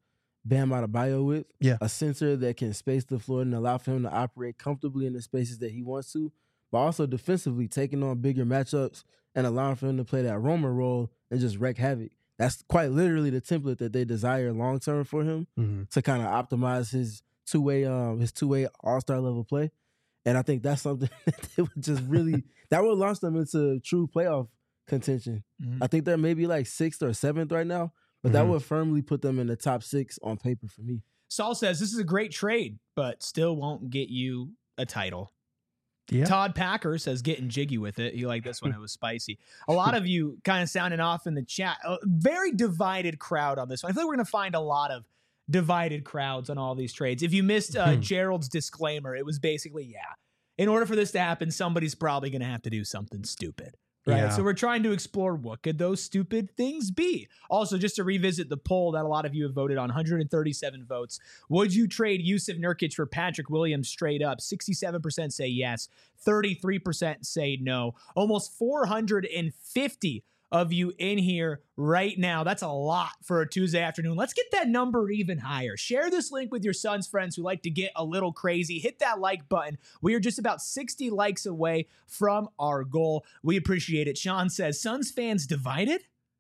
Bam Adebayo with. Yeah. A center that can space the floor and allow for him to operate comfortably in the spaces that he wants to, but also defensively taking on bigger matchups and allowing for him to play that roamer role and just wreak havoc. That's quite literally the template that they desire long term for him Mm-hmm. to kind of optimize his two way um his two way all star level play. And I think that's something that would just really that would launch them into true playoff contention. Mhm. I think they're maybe like sixth or seventh right now, but that Mhm. would firmly put them in the top six on paper for me. Saul says this is a great trade, but still won't get you a title. Yeah. Todd Packer says getting jiggy with it. He liked this one. It was spicy. A lot of you kind of sounding off in the chat. A very divided crowd on this one. I feel like we're going to find a lot of divided crowds on all these trades. If you missed uh, Hmm. Gerald's disclaimer, it was basically, yeah, in order for this to happen, somebody's probably going to have to do something stupid. Right. Yeah. So we're trying to explore what could those stupid things be. Also, just to revisit the poll that a lot of you have voted on, one hundred thirty-seven votes. Would you trade Yusuf Nurkic for Patrick Williams straight up? sixty-seven percent say yes. thirty-three percent say no. Almost four hundred fifty of you in here right now. That's a lot for a Tuesday afternoon. Let's get that number even higher. Share this link with your son's friends who like to get a little crazy. Hit that like button. We are just about sixty likes away from our goal. We appreciate it. Sean says, Suns fans divided?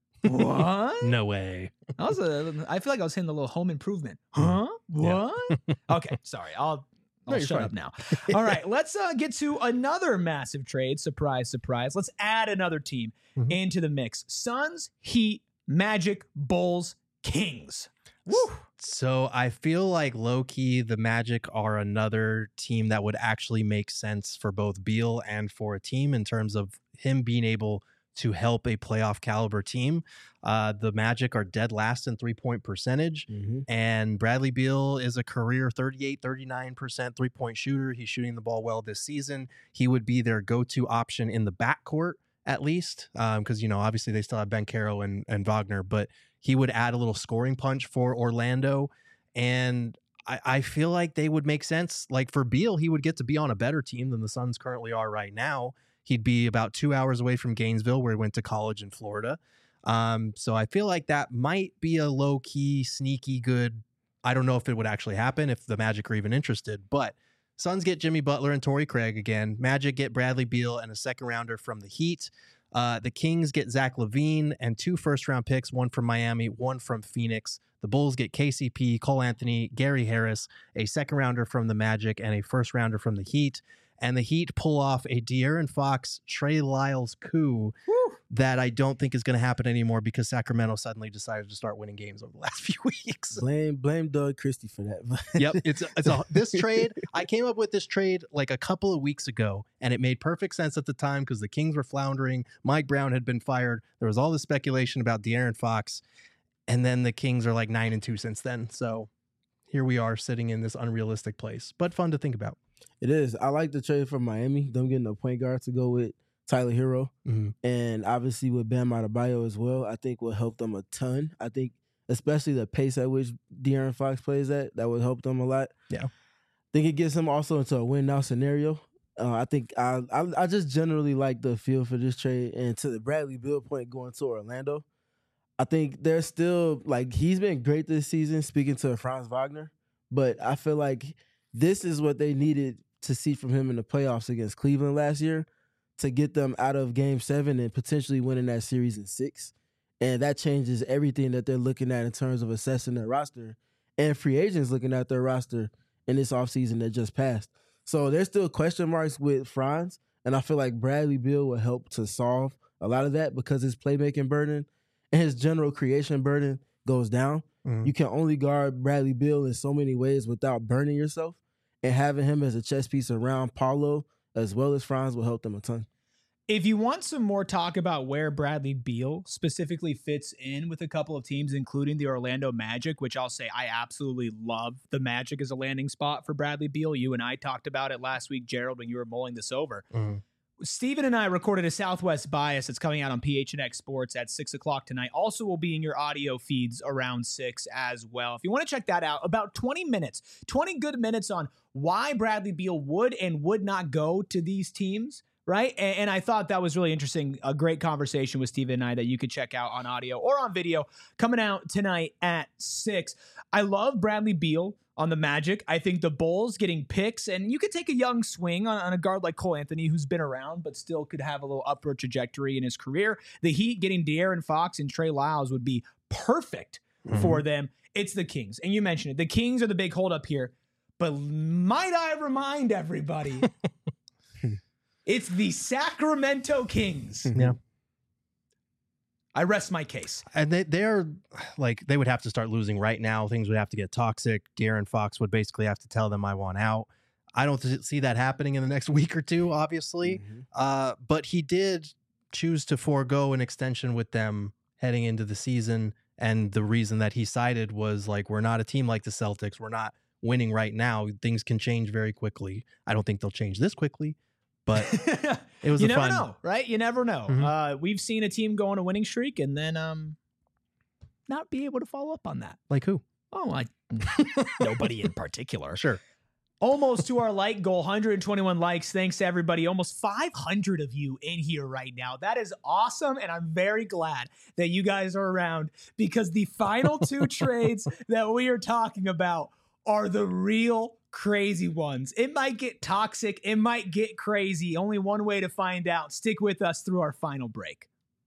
What? No way. I, was a, I feel like I was hitting the little home improvement. Huh? What? Okay, sorry. I'll I'll No, you're shut fine. up now. All right, let's uh, get to another massive trade. Surprise, surprise. Let's add another team Mhm. into the mix. Suns, Heat, Magic, Bulls, Kings. Woo. So I feel like low key, the Magic are another team that would actually make sense for both Beal and for a team in terms of him being able to help a playoff caliber team. Uh, the Magic are dead last in three point percentage. Mm-hmm. And Bradley Beal is a career thirty-eight, thirty-nine percent three point shooter. He's shooting the ball well this season. He would be their go to option in the backcourt, at least, because, um, you know, obviously they still have Ben Caro and, and Wagner, but he would add a little scoring punch for Orlando. And I, I feel like they would make sense. Like for Beal, he would get to be on a better team than the Suns currently are right now. He'd be about two hours away from Gainesville, where he went to college in Florida. Um, so I feel like that might be a low key, sneaky good. I don't know if it would actually happen if the Magic are even interested, but Suns get Jimmy Butler and Torrey Craig again. Magic get Bradley Beal and a second rounder from the Heat. Uh, the Kings get Zach LaVine and two first round picks, one from Miami, one from Phoenix. The Bulls get K C P, Cole Anthony, Gary Harris, a second rounder from the Magic, and a first rounder from the Heat. And the Heat pull off a De'Aaron Fox, Trey Lyles coup Woo. that I don't think is going to happen anymore because Sacramento suddenly decided to start winning games over the last few weeks. Blame blame Doug Christie for that. Yep, it's it's a, this trade. I came up with this trade like a couple of weeks ago, and it made perfect sense at the time because the Kings were floundering. Mike Brown had been fired. There was all this speculation about De'Aaron Fox, and then the Kings are like nine and two since then. So here we are sitting in this unrealistic place, but fun to think about. It is. I like the trade from Miami. Them getting a point guard to go with Tyler Hero. Mm-hmm. And obviously with Bam Adebayo as well, I think will help them a ton. I think especially the pace at which De'Aaron Fox plays at, that would help them a lot. Yeah. I think it gets them also into a win-now scenario. Uh, I think I, I I just generally like the feel for this trade. And to the Bradley Beal point going to Orlando, I think there's still, like, he's been great this season, speaking to Franz Wagner. But I feel like this is what they needed to see from him in the playoffs against Cleveland last year to get them out of game seven and potentially winning that series in six. And that changes everything that they're looking at in terms of assessing their roster and free agents looking at their roster in this offseason that just passed. So there's still question marks with Franz, and I feel like Bradley Beal will help to solve a lot of that because his playmaking burden and his general creation burden goes down. Mhm. You can only guard Bradley Beal in so many ways without burning yourself. And having him as a chess piece around Paulo as well as Franz will help them a ton. If you want some more talk about where Bradley Beal specifically fits in with a couple of teams, including the Orlando Magic, which I'll say I absolutely love the Magic as a landing spot for Bradley Beal. You and I talked about it last week, Gerald, when you were mulling this over. Mm-hmm. Steven and I recorded a Southwest Bias that's coming out on P H N X Sports at six o'clock tonight. Also will be in your audio feeds around six as well. If you want to check that out, about twenty minutes, twenty good minutes on why Bradley Beal would and would not go to these teams right? And, and I thought that was really interesting. A great conversation with Steven and I that you could check out on audio or on video coming out tonight at six. I love Bradley Beal on the Magic. I think the Bulls getting picks, and you could take a young swing on, on a guard like Cole Anthony, who's been around, but still could have a little upward trajectory in his career. The Heat getting De'Aaron Fox and Trey Lyles would be perfect mm-hmm. for them. It's the Kings. And you mentioned it. The Kings are the big holdup here. But might I remind everybody, it's the Sacramento Kings. Yeah. I rest my case. And they, they're like, they would have to start losing right now. Things would have to get toxic. De'Aaron Fox would basically have to tell them, I want out. I don't th- see that happening in the next week or two, obviously. Mm-hmm. Uh, but he did choose to forego an extension with them heading into the season. And the reason that he cited was like, we're not a team like the Celtics. We're not winning right now. Things can change very quickly. I don't think they'll change this quickly. But it was you a never fun... know, right? You never know. Mm-hmm. Uh, we've seen a team go on a winning streak and then um, not be able to follow up on that. Like who? Oh, I nobody in particular. Sure. Almost to our like goal, one hundred twenty-one likes. Thanks to everybody. Almost five hundred of you in here right now. That is awesome, and I'm very glad that you guys are around because the final two trades that we are talking about are the real crazy ones. It might get toxic. It might get crazy. Only one way to find out. Stick with us through our final break.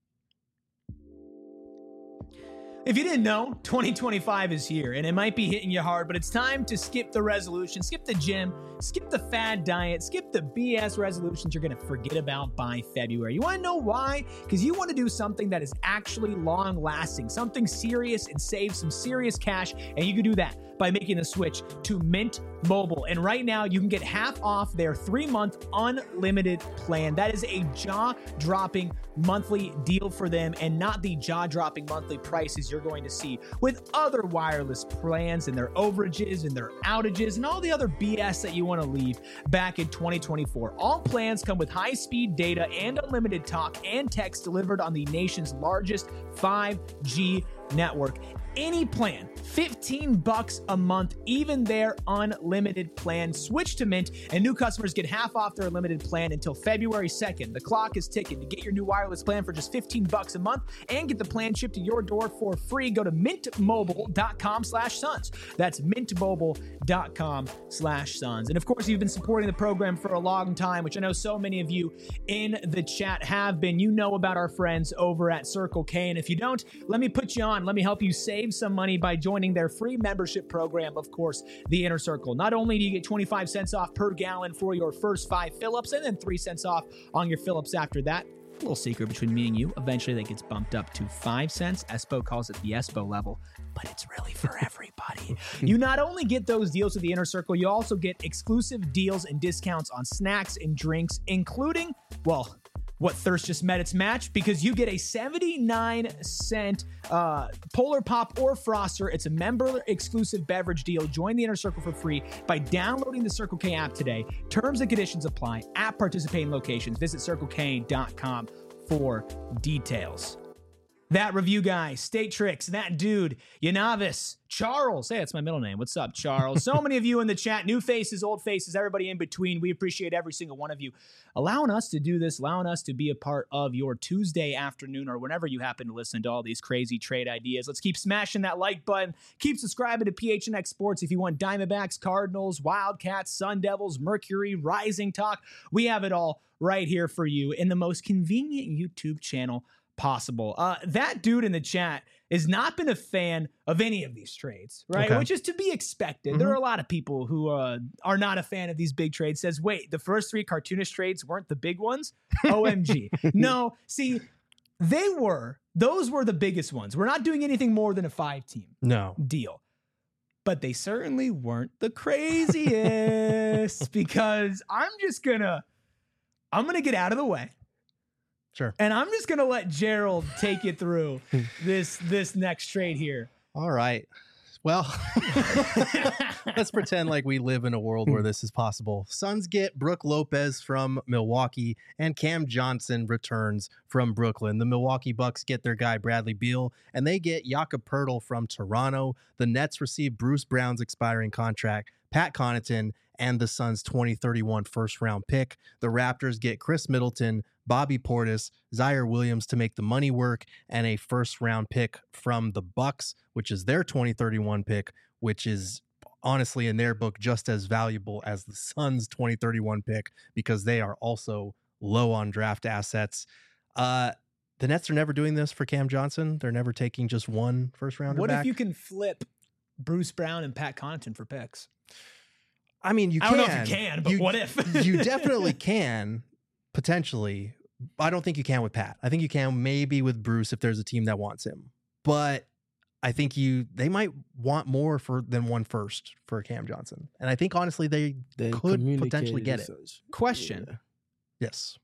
If you didn't know, twenty twenty-five is here, and it might be hitting you hard, but it's time to skip the resolution, skip the gym, skip the fad diet, skip the B S resolutions you're going to forget about by February. You want to know why? Because you want to do something that is actually long-lasting, something serious and save some serious cash, and you can do that by making the switch to Mint Mobile. And right now, you can get half off their three-month unlimited plan. That is a jaw-dropping monthly deal for them and not the jaw-dropping monthly prices you're going to see with other wireless plans and their overages and their outages and all the other B S that you want to leave back in twenty twenty-four. All plans come with high-speed data and unlimited talk and text delivered on the nation's largest five G network. Any plan, fifteen bucks a month, even their unlimited plan. Switch to Mint, and new customers get half off their unlimited plan until February second. The clock is ticking. To get your new wireless plan for just fifteen bucks a month and get the plan shipped to your door for free, go to mintmobile.com slash sons. That's mintmobile.com slash sons. And of course, you've been supporting the program for a long time, which I know so many of you in the chat have been. You know about our friends over at Circle K, and if you don't, let me put you on. Let me help you save some money by joining their free membership program, of course, the Inner Circle. Not only do you get twenty-five cents off per gallon for your first five fill-ups and then three cents off on your fill-ups after that. A little secret between me and you. Eventually that gets bumped up to five cents. Espo calls it the Espo level, but it's really for everybody. You not only get those deals with the Inner Circle, you also get exclusive deals and discounts on snacks and drinks, including, well, what thirst just met its match, because you get a seventy-nine cent uh, Polar Pop or Froster. It's a member exclusive beverage deal. Join the Inner Circle for free by downloading the Circle K app today. Terms and conditions apply at participating locations. Visit circle k dot com for details. That review guy, State Tricks, that dude, Yanavis, Charles. Hey, that's my middle name. What's up, Charles? So many of you in the chat, new faces, old faces, everybody in between. We appreciate every single one of you allowing us to do this, allowing us to be a part of your Tuesday afternoon or whenever you happen to listen to all these crazy trade ideas. Let's keep smashing that like button. Keep subscribing to P H N X Sports if you want Diamondbacks, Cardinals, Wildcats, Sun Devils, Mercury, Rising talk. We have it all right here for you in the most convenient YouTube channel possible. Uh, that dude in the chat has not been a fan of any of these trades, right? Okay. Which is to be expected. Mm-hmm. There are a lot of people who uh, are not a fan of these big trades. Says, wait, the first three cartoonish trades weren't the big ones? O M G. No, see, they were. Those were the biggest ones. We're not doing anything more than a five-team no deal. But they certainly weren't the craziest because I'm just going to, I'm going to get out of the way. Sure. And I'm just going to let Gerald take you through this this next trade here. All right. Well, let's pretend like we live in a world where this is possible. Suns get Brook Lopez from Milwaukee, and Cam Johnson returns from Brooklyn. The Milwaukee Bucks get their guy Bradley Beal, and they get Jakob Poeltl from Toronto. The Nets receive Bruce Brown's expiring contract, Pat Connaughton, and the Suns' twenty thirty-one first round pick. The Raptors get Chris Middleton, Bobby Portis, Zaire Williams to make the money work, and a first round pick from the Bucks, which is their twenty thirty-one pick, which is honestly in their book just as valuable as the Suns' twenty thirty-one pick because they are also low on draft assets. Uh, the Nets are never doing this for Cam Johnson. They're never taking just one first rounder What back. if you can flip Bruce Brown and Pat Connaughton for picks? I mean, you I can. don't know if you can, but You- what if? You definitely can, potentially. I don't think you can with Pat. I think you can maybe with Bruce if there's a team that wants him. But I think you they might want more for than one first for Cam Johnson. And I think honestly they They could potentially communicated get as it. such. Question. Yeah. Yes.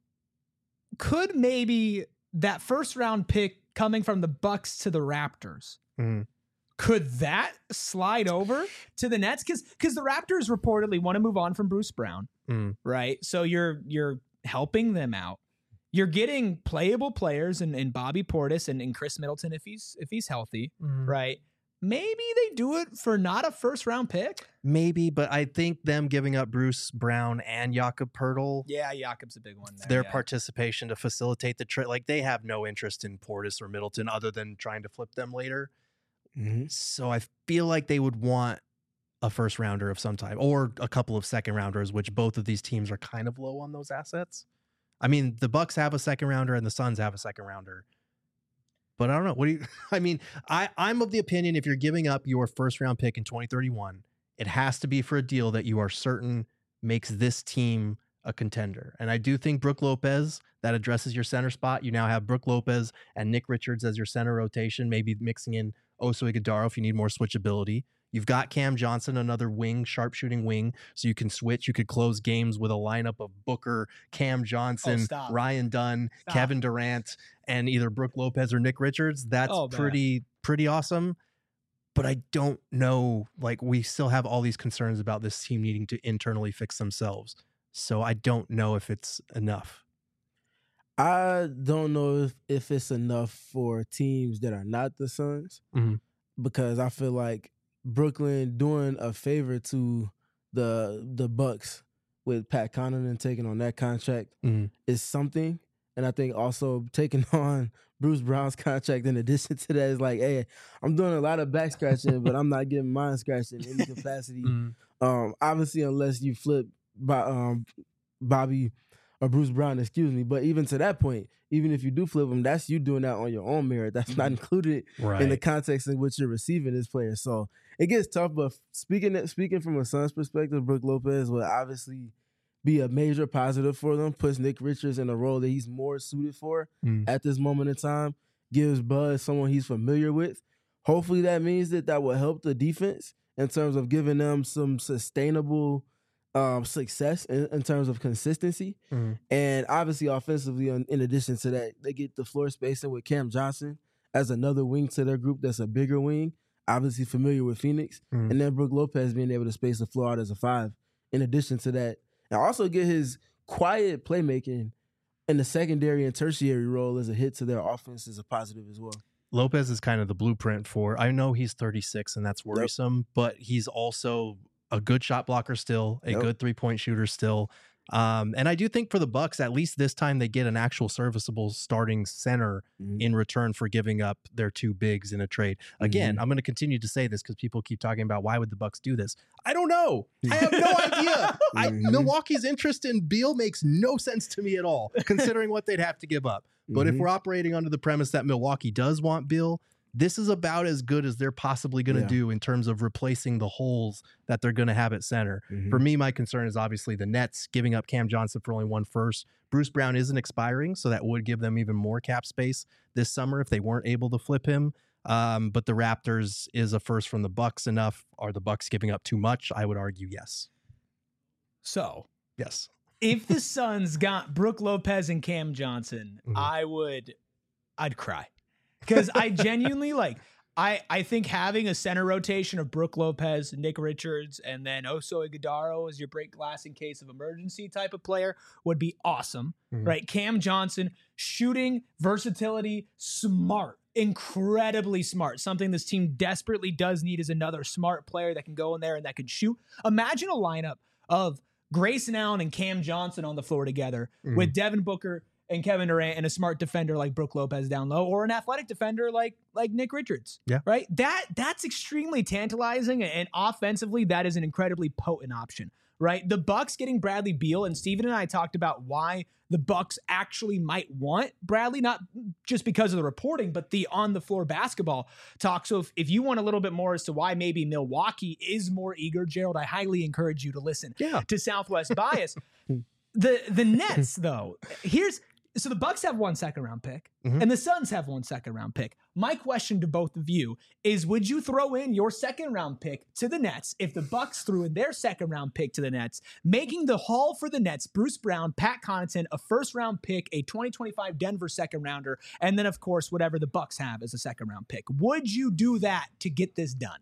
Could maybe that first round pick coming from the Bucks to the Raptors, Mhm. could that slide over to the Nets? Because because the Raptors reportedly want to move on from Bruce Brown, Mm. right? So you're you're helping them out. You're getting playable players in, in Bobby Portis and, and Chris Middleton if he's if he's healthy, Mm. right? Maybe they do it for not a first round pick. Maybe, but I think them giving up Bruce Brown and Jakob Pertl, Yeah, Jakob's a big one. There, their yeah. participation to facilitate the trade, like they have no interest in Portis or Middleton other than trying to flip them later. Mhm. So I feel like they would want a first rounder of some type or a couple of second rounders, which both of these teams are kind of low on those assets. I mean, the Bucks have a second rounder and the Suns have a second rounder. But I don't know. What do you I mean, I, I'm of the opinion if you're giving up your first round pick in twenty thirty-one, it has to be for a deal that you are certain makes this team a contender. And I do think Brook Lopez, that addresses your center spot. You now have Brook Lopez and Nick Richards as your center rotation, maybe mixing in Oso Ighodaro if you need more switchability. You've got Cam Johnson, another wing, sharpshooting wing, so you can switch. You could close games with a lineup of Booker, Cam Johnson, stop. Ryan Dunn, Stop. Kevin Durant, and either Brook Lopez or Nick Richards. That's Oh, man. pretty pretty awesome. But I don't know. Like, we still have all these concerns about this team needing to internally fix themselves. So I don't know if it's enough. I don't know if, if it's enough for teams that are not the Suns Mhm. because I feel like Brooklyn doing a favor to the the Bucks with Pat Connaughton taking on that contract Mhm. is something. And I think also taking on Bruce Brown's contract in addition to that is like, hey, I'm doing a lot of back scratching, but I'm not getting mine scratched in any capacity. Mhm. Um, obviously, unless you flip by um, Bobby or Bruce Brown, excuse me. But even to that point, even if you do flip them, that's you doing that on your own merit. That's not included Right. in the context in which you're receiving this player. So it gets tough. But speaking speaking from a Suns perspective, Brook Lopez will obviously be a major positive for them. Puts Nick Richards in a role that he's more suited for Mm. at this moment in time. Gives Buzz someone he's familiar with. Hopefully that means that that will help the defense in terms of giving them some sustainable um, success in, in terms of consistency. Mhm. And obviously offensively, in, in addition to that, they get the floor spacing with Cam Johnson as another wing to their group that's a bigger wing, obviously familiar with Phoenix. Mhm. And then Brook Lopez being able to space the floor out as a five in addition to that. And also get his quiet playmaking in the secondary and tertiary role as a hit to their offense is a positive as well. Lopez is kind of the blueprint for, I know he's thirty-six and that's worrisome, but he's also a good shot blocker still, a Yep. good three-point shooter still. Um, and I do think for the Bucks, at least this time they get an actual serviceable starting center Mhm. in return for giving up their two bigs in a trade. Again, Mm-hmm. I'm going to continue to say this because people keep talking about why would the Bucks do this. I don't know. I have no idea. I, Mhm. Milwaukee's interest in Beal makes no sense to me at all, considering what they'd have to give up. But if Mhm. we're operating under the premise that Milwaukee does want Beal, this is about as good as they're possibly going to Yeah. do in terms of replacing the holes that they're going to have at center. Mhm. For me, my concern is obviously the Nets giving up Cam Johnson for only one first. Bruce Brown isn't expiring, so that would give them even more cap space this summer if they weren't able to flip him. Um, but the Raptors is a first from the Bucks enough. Are the Bucks giving up too much? I would argue yes. So Yes. if the Suns got Brook Lopez and Cam Johnson, Mhm. I would, I'd cry because I genuinely like. I I think having a center rotation of Brook Lopez, Nick Richards, and then Oso Ighodaro as your break glass in case of emergency type of player would be awesome, Mhm. right? Cam Johnson, shooting, versatility, smart, incredibly smart. Something this team desperately does need is another smart player that can go in there and that can shoot. Imagine a lineup of Grayson Allen and Cam Johnson on the floor together Mhm. with Devin Booker and Kevin Durant and a smart defender like Brook Lopez down low, or an athletic defender like like Nick Richards. Yeah. Right? That that's extremely tantalizing, and offensively that is an incredibly potent option. Right? The Bucks getting Bradley Beal, and Steven and I talked about why the Bucks actually might want Bradley, not just because of the reporting, but the on the floor basketball talk. So if, if you want a little bit more as to why maybe Milwaukee is more eager, Gerald, I highly encourage you to listen Yeah. to Southwest Bias. the the Nets, though, here's so the Bucks have one second round pick, Mhm. and the Suns have one second round pick. My question to both of you is: would you throw in your second round pick to the Nets if the Bucks threw in their second round pick to the Nets, making the haul for the Nets Bruce Brown, Pat Connaughton, a first round pick, a twenty twenty-five Denver second rounder, and then of course whatever the Bucks have as a second round pick? Would you do that to get this done?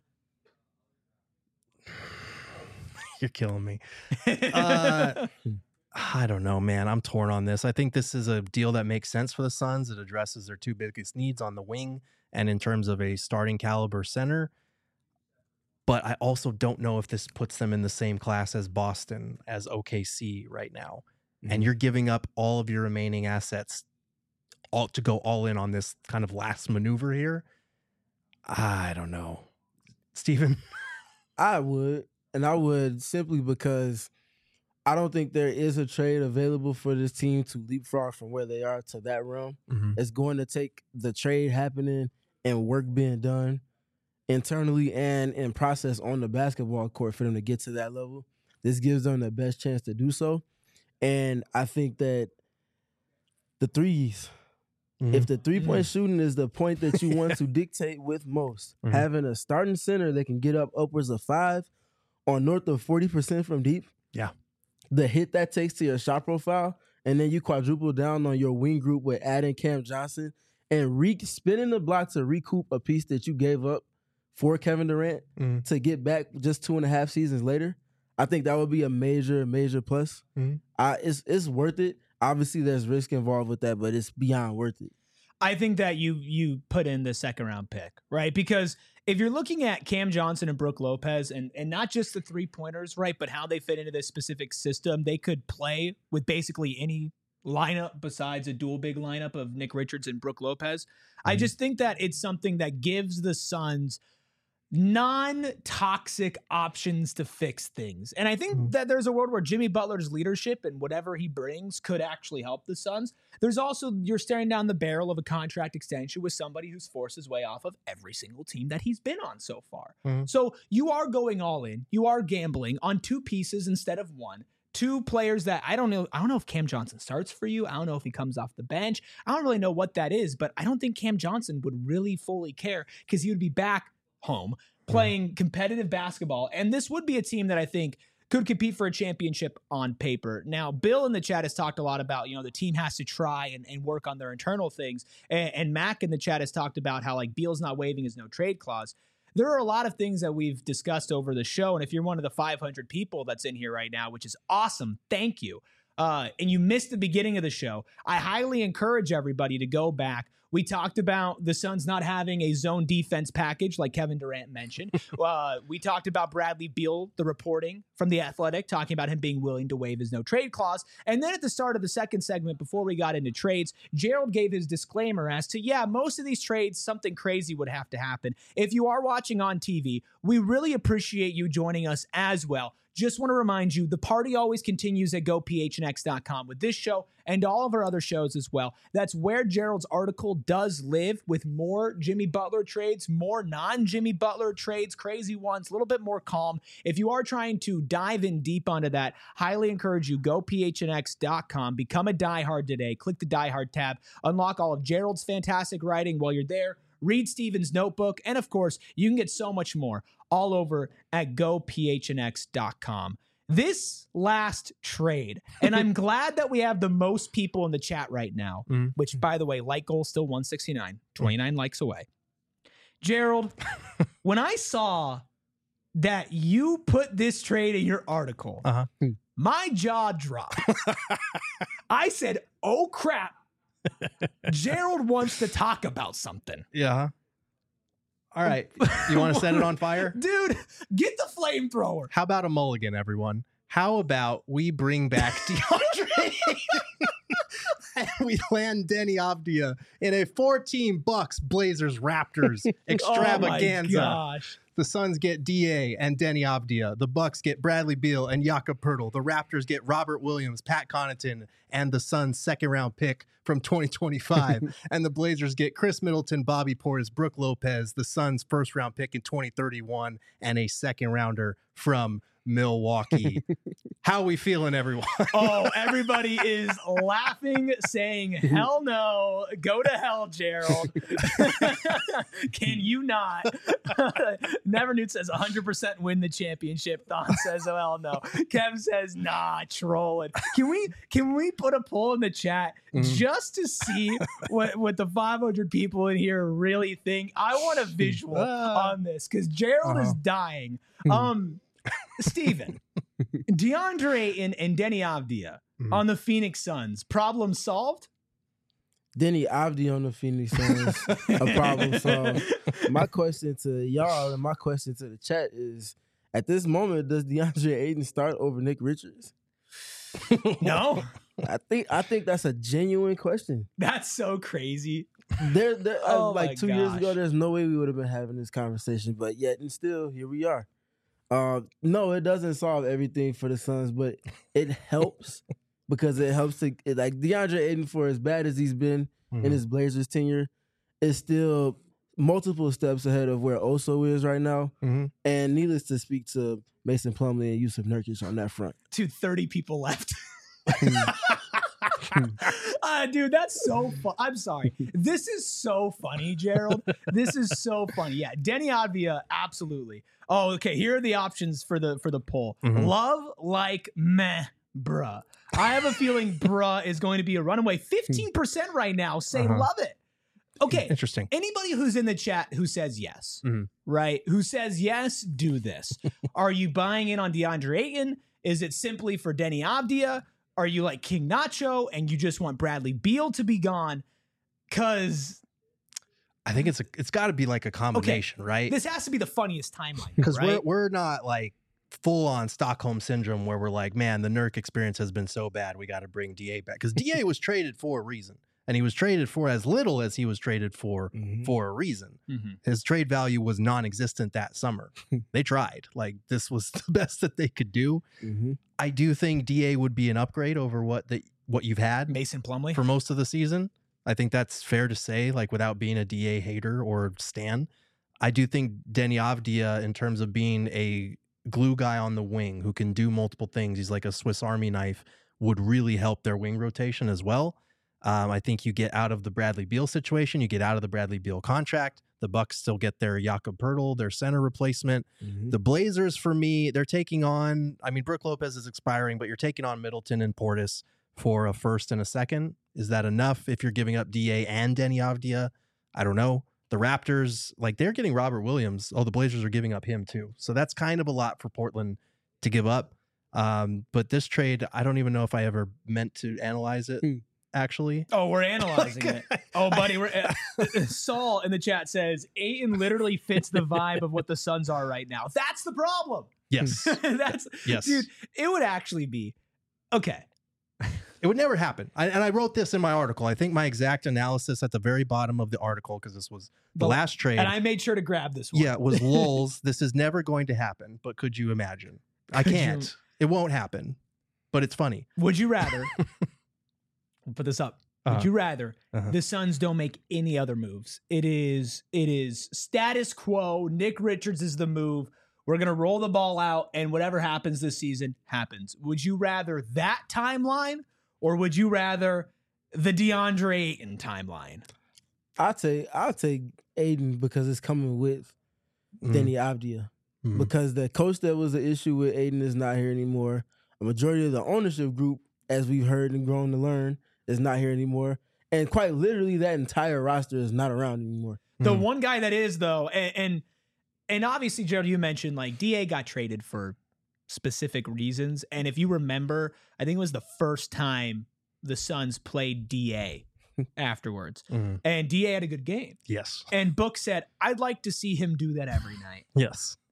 You're killing me. Uh, I don't know, man. I'm torn on this. I think this is a deal that makes sense for the Suns. It addresses their two biggest needs on the wing and in terms of a starting caliber center. But I also don't know if this puts them in the same class as Boston, as O K C right now. Mhm. And you're giving up all of your remaining assets all to go all in on this kind of last maneuver here. I don't know. Steven? I would, and I would simply because I don't think there is a trade available for this team to leapfrog from where they are to that realm. Mm-hmm. It's going to take the trade happening and work being done internally and in process on the basketball court for them to get to that level. This gives them the best chance to do so. And I think that the threes, Mm-hmm. if the three-point shooting is the point that you want to dictate with most, Mhm. having a starting center that can get up upwards of five or north of forty percent from deep, Yeah. the hit that takes to your shot profile, and then you quadruple down on your wing group with adding Cam Johnson and re- spinning the block to recoup a piece that you gave up for Kevin Durant Mhm. to get back just two and a half seasons later, I think that would be a major, major plus. Mhm. I, it's it's worth it. Obviously, there's risk involved with that, but it's beyond worth it. I think that you you put in the second round pick, right? Because if you're looking at Cam Johnson and Brook Lopez, and and not just the three pointers, right, but how they fit into this specific system, they could play with basically any lineup besides a dual big lineup of Nick Richards and Brook Lopez. I Mhm. just think that it's something that gives the Suns non-toxic options to fix things. And I think Mhm. that there's a world where Jimmy Butler's leadership and whatever he brings could actually help the Suns. There's also, you're staring down the barrel of a contract extension with somebody who's forced his way off of every single team that he's been on so far. Mhm. So you are going all in. You are gambling on two pieces instead of one. Two players that I don't know. I don't know if Cam Johnson starts for you. I don't know if he comes off the bench. I don't really know what that is, but I don't think Cam Johnson would really fully care because he would be back home playing competitive basketball. And this would be a team that I think could compete for a championship on paper. Now, Bill in the chat has talked a lot about, you know, the team has to try and, and work on their internal things. And, and Mac in the chat has talked about how like Beal's not waiving his no trade clause. There are a lot of things that we've discussed over the show. And if you're one of the five hundred people that's in here right now, which is awesome, thank you. Uh, and you missed the beginning of the show, I highly encourage everybody to go back. We talked about the Suns not having a zone defense package like Kevin Durant mentioned. uh, we talked about Bradley Beal, the reporting from The Athletic, talking about him being willing to waive his no trade clause. And then at the start of the second segment, before we got into trades, Gerald gave his disclaimer as to, yeah, most of these trades, something crazy would have to happen. If you are watching on T V, we really appreciate you joining us as well. Just want to remind you, the party always continues at go p h n x dot com with this show and all of our other shows as well. That's where Gerald's article does live, with more Jimmy Butler trades, more non-Jimmy Butler trades, crazy ones, a little bit more calm. If you are trying to dive in deep onto that, highly encourage you, go p h n x dot com, become a diehard today, click the diehard tab, unlock all of Gerald's fantastic writing while you're there. Read Steven's notebook, and of course, you can get so much more all over at go p h n x dot com. This last trade, and I'm glad that we have the most people in the chat right now, Mhm. which, by the way, like goal still one sixty-nine, twenty-nine likes away. Gerald, when I saw that you put this trade in your article, Uh-huh. my jaw dropped. I said, oh, crap. Gerald wants to talk about something. Yeah. All right. You want to set it on fire? Dude, get the flamethrower. How about a mulligan, everyone? how about we bring back DeAndre and we land Denny Avdia in a four-team Bucks, Blazers, Raptors extravaganza. Oh my gosh. The Suns get D A and Denny Avdia. The Bucks get Bradley Beal and Jakob Poeltl. The Raptors get Robert Williams, Pat Connaughton, and the Suns' second-round pick from twenty twenty-five. And the Blazers get Chris Middleton, Bobby Portis, Brooke Lopez, the Suns' first-round pick in twenty thirty-one, and a second-rounder from Milwaukee. How are we feeling, everyone? Oh, everybody is laughing, saying, hell no, go to hell, Gerald. Can you not? Never Newt says one hundred percent win the championship. Thon says, oh, hell no. Kev says, nah, trolling. Can we can we put a poll in the chat mm-hmm. just to see what, what the five hundred people in here really think? I want a visual uh, on this because Gerald uh-huh. is dying. Um, Steven, DeAndre and, and Denny Avdia mm-hmm. on the Phoenix Suns. Problem solved? Denny Avdia on the Phoenix Suns. A problem solved. My question to y'all and my question to the chat is, at this moment, does DeAndre Ayton start over Nick Richards? No. I think I think that's a genuine question. That's so crazy. There, there oh uh, like two gosh. years ago, there's no way we would have been having this conversation, but yet and still, here we are. Uh, no, it doesn't solve everything for the Suns, but it helps because it helps to it, like DeAndre Ayton, for as bad as he's been mm-hmm. in his Blazers tenure, is still multiple steps ahead of where Oso is right now. Mm-hmm. And needless to speak to Mason Plumlee and Yusuf Nurkic on that front. To thirty people left. uh, dude, that's so fun. I'm sorry. This is so funny, Gerald. This is so funny. Yeah, Denny Avdia, absolutely. Oh, okay. Here are the options for the for the poll. Mm-hmm. Love, like, meh, bruh. I have a feeling bruh is going to be a runaway. fifteen percent right now say uh-huh. love it. Okay. Interesting. Anybody who's in the chat who says yes, mm-hmm. right? Who says yes, do this. Are you buying in on DeAndre Ayton? Is it simply for Denny Avdia? Are you like King Nacho and you just want Bradley Beal to be gone? Because I think it's a, it's got to be like a combination, okay. right? This has to be the funniest timeline. Because right? we're, we're not like full on Stockholm syndrome where we're like, man, the Nurk experience has been so bad, we got to bring D A back. Because D A was traded for a reason. And he was traded for as little as he was traded for mm-hmm. for a reason. Mm-hmm. His trade value was non-existent that summer. They tried. Like, this was the best that they could do. Mm-hmm. I do think D A would be an upgrade over what the what you've had. Mason Plumlee. For most of the season. I think that's fair to say, like, without being a D A hater or stan. I do think Denny Avdia, in terms of being a glue guy on the wing who can do multiple things, he's like a Swiss Army knife, would really help their wing rotation as well. Um, I think you get out of the Bradley Beal situation. You get out of the Bradley Beal contract. The Bucks still get their Jakob Poeltl, their center replacement. Mm-hmm. The Blazers, for me, they're taking on, I mean, Brooke Lopez is expiring, but you're taking on Middleton and Portis for a first and a second. Is that enough if you're giving up D A and Denny Avdia? I don't know. The Raptors, like, they're getting Robert Williams. Oh, the Blazers are giving up him too. So that's kind of a lot for Portland to give up. Um, but this trade, I don't even know if I ever meant to analyze it. Mm. Actually, oh, we're analyzing it. Oh, buddy, we're uh, Saul in the chat says Ayton literally fits the vibe of what the Suns are right now. That's the problem. Yes, that's yes, dude. It would actually be okay. It would never happen. I, and I wrote this in my article. I think my exact analysis at the very bottom of the article, because this was the but, last trade, and I made sure to grab this one. Yeah, it was lulz. This is never going to happen. But could you imagine? I could can't. You? It won't happen. But it's funny. Would you rather? We'll put this up. Uh-huh. Would you rather uh-huh. the Suns don't make any other moves? It is it is status quo. Nick Richards is the move. We're going to roll the ball out, and whatever happens this season happens. Would you rather that timeline, or would you rather the DeAndre Ayton timeline? I'll take I'll take Ayton because it's coming with mm. Denny Avdia. Mm. Because the coach that was the issue with Ayton is not here anymore. A majority of the ownership group, as we've heard and grown to learn, is not here anymore. And quite literally, that entire roster is not around anymore. The mm. one guy that is, though, and, and and obviously, Gerald, you mentioned, like, D A got traded for specific reasons. And if you remember, I think it was the first time the Suns played D A afterwards. Mm-hmm. And D A had a good game. Yes. And Book said, I'd like to see him do that every night. Yes.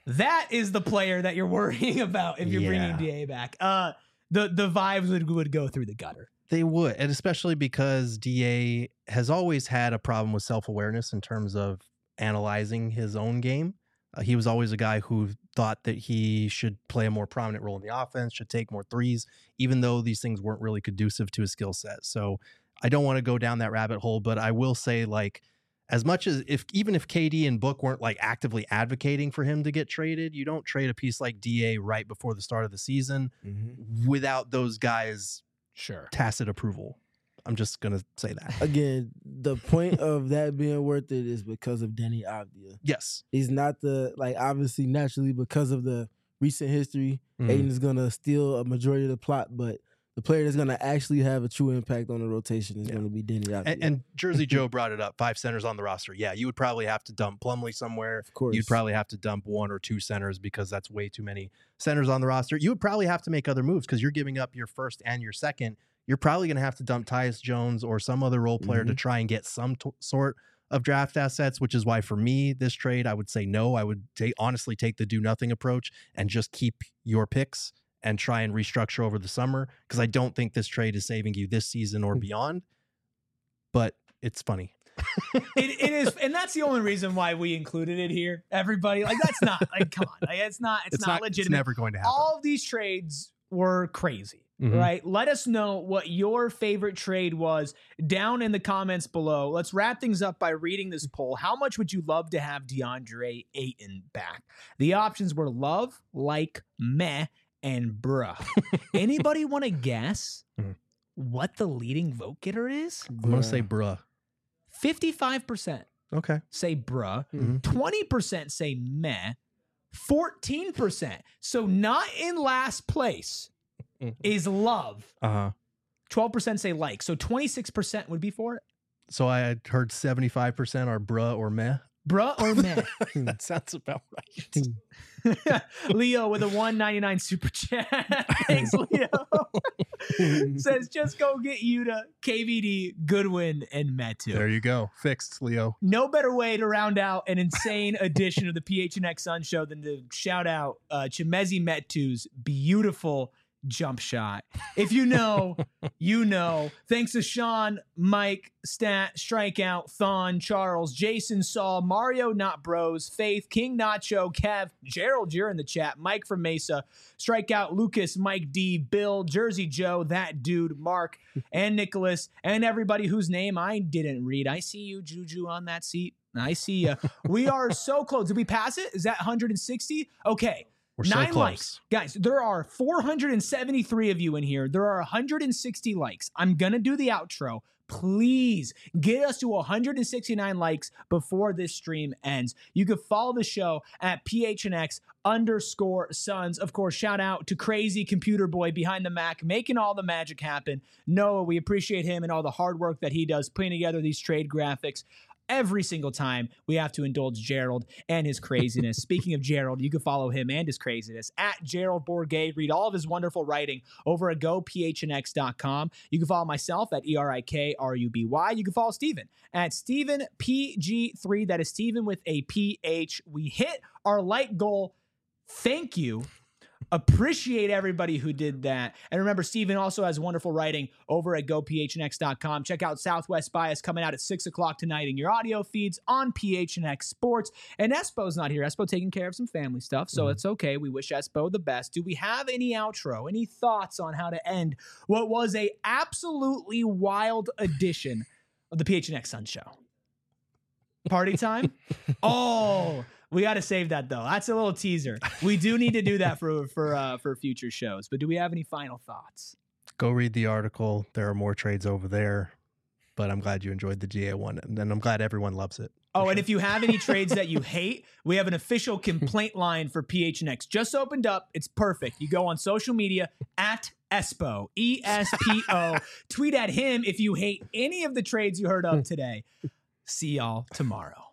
That is the player that you're worrying about if you're Yeah. bringing D A back. Uh, the the vibes would would go through the gutter. They would, and especially because D A has always had a problem with self-awareness in terms of analyzing his own game. Uh, he was always a guy who thought that he should play a more prominent role in the offense, should take more threes, even though these things weren't really conducive to his skill set. So I don't want to go down that rabbit hole, but I will say, like, as much as if even if K D and Book weren't like actively advocating for him to get traded, you don't trade a piece like D A right before the start of the season Mm-hmm. without those guys' Sure. tacit approval. I'm just gonna say that. Again, the point of that being worth it is because of Denny Avdia. Yes. He's not the, like, obviously, naturally, because of the recent history, Mhm. Aiden's going to steal a majority of the plot, but the player that's going to actually have a true impact on the rotation is Yeah. going to be Denny Avdia. And, and Jersey Joe brought it up. Five centers on the roster. Yeah, you would probably have to dump Plumlee somewhere. of course. You'd probably have to dump one or two centers because that's way too many centers on the roster. You would probably have to make other moves because you're giving up your first and your second. You're probably going to have to dump Tyus Jones or some other role player to try and get some t- sort of draft assets, which is why for me, this trade, I would say no. I would ta- honestly take the do nothing approach and just keep your picks and try and restructure over the summer because I don't think this trade is saving you this season or beyond. But it's funny. it, it is, and that's the only reason why we included it here. Everybody, like, that's not like, come on, like, it's not, it's, It's not, not. It's legitimate. never going to happen. All of these trades were crazy. Mhm. Right. Let us know what your favorite trade was down in the comments below. Let's wrap things up by reading this poll. How much would you love to have DeAndre Ayton back? The options were love, like, meh, and bruh. Anybody want to guess Mhm. what the leading vote getter is? I'm going to say bruh. fifty-five percent Okay. say bruh, Mhm. twenty percent say meh, fourteen percent. So not in last place Mhm. is love. Uh-huh. twelve percent say like. So twenty-six percent would be for it. So I had heard seventy-five percent are bruh or meh. Bruh or meh? That sounds about right. Leo with a one ninety-nine super chat. Thanks, Leo. Says just go get Yuta, K V D, Goodwin, and Metu. There you go. Fixed, Leo. No better way to round out an insane edition of the P H N X Sun Show than to shout out uh, Chimezi Metu's beautiful jump shot. If you know, you know. Thanks to Sean, Mike, Stat, Strikeout, Thon, Charles, Jason, Saul, Mario, Not Bros, Faith, King Nacho, Kev, Gerald, you're in the chat, Mike from Mesa, Strikeout, Lucas, Mike D, Bill, Jersey Joe, That Dude, Mark, and Nicholas, and everybody whose name I didn't read. I see you, Juju, on that seat. I see you. We are so close. Did we pass it? Is that one hundred sixty? Okay. We're Nine so close. likes. Guys, there are four hundred seventy-three of you in here. There are one hundred sixty likes. I'm going to do the outro. Please get us to one hundred sixty-nine likes before this stream ends. You can follow the show at P H N X underscore Suns. Of course, shout out to Crazy Computer Boy behind the Mac, making all the magic happen. Noah, we appreciate him and all the hard work that he does putting together these trade graphics. Every single time we have to indulge Gerald and his craziness. Speaking of Gerald, you can follow him and his craziness at Gerald Bourget. Read all of his wonderful writing over at go p h n x dot com. You can follow myself at E R I K R U B Y. You can follow Steven at Steven P G three. That is Steven with a P H. We hit our like goal. Thank you. Appreciate everybody who did that. And remember, Steven also has wonderful writing over at go p h n x dot com. Check out Southwest Bias coming out at six o'clock tonight in your audio feeds on P H N X Sports. And Espo's not here. Espo taking care of some family stuff, so mm-hmm. It's okay. We wish Espo the best. Do we have any outro, any thoughts on how to end what was a absolutely wild edition of the P H N X Sun Show? Party time? Oh, we got to save that though. That's a little teaser. We do need to do that for for uh, for future shows. But do we have any final thoughts? Go read the article. There are more trades over there. But I'm glad you enjoyed the G A one, and I'm glad everyone loves it. Oh, sure. And if you have any trades that you hate, we have an official complaint line for P H N X. Just opened up. It's perfect. You go on social media at Espo, E S P O. Tweet at him if you hate any of the trades you heard of today. See y'all tomorrow.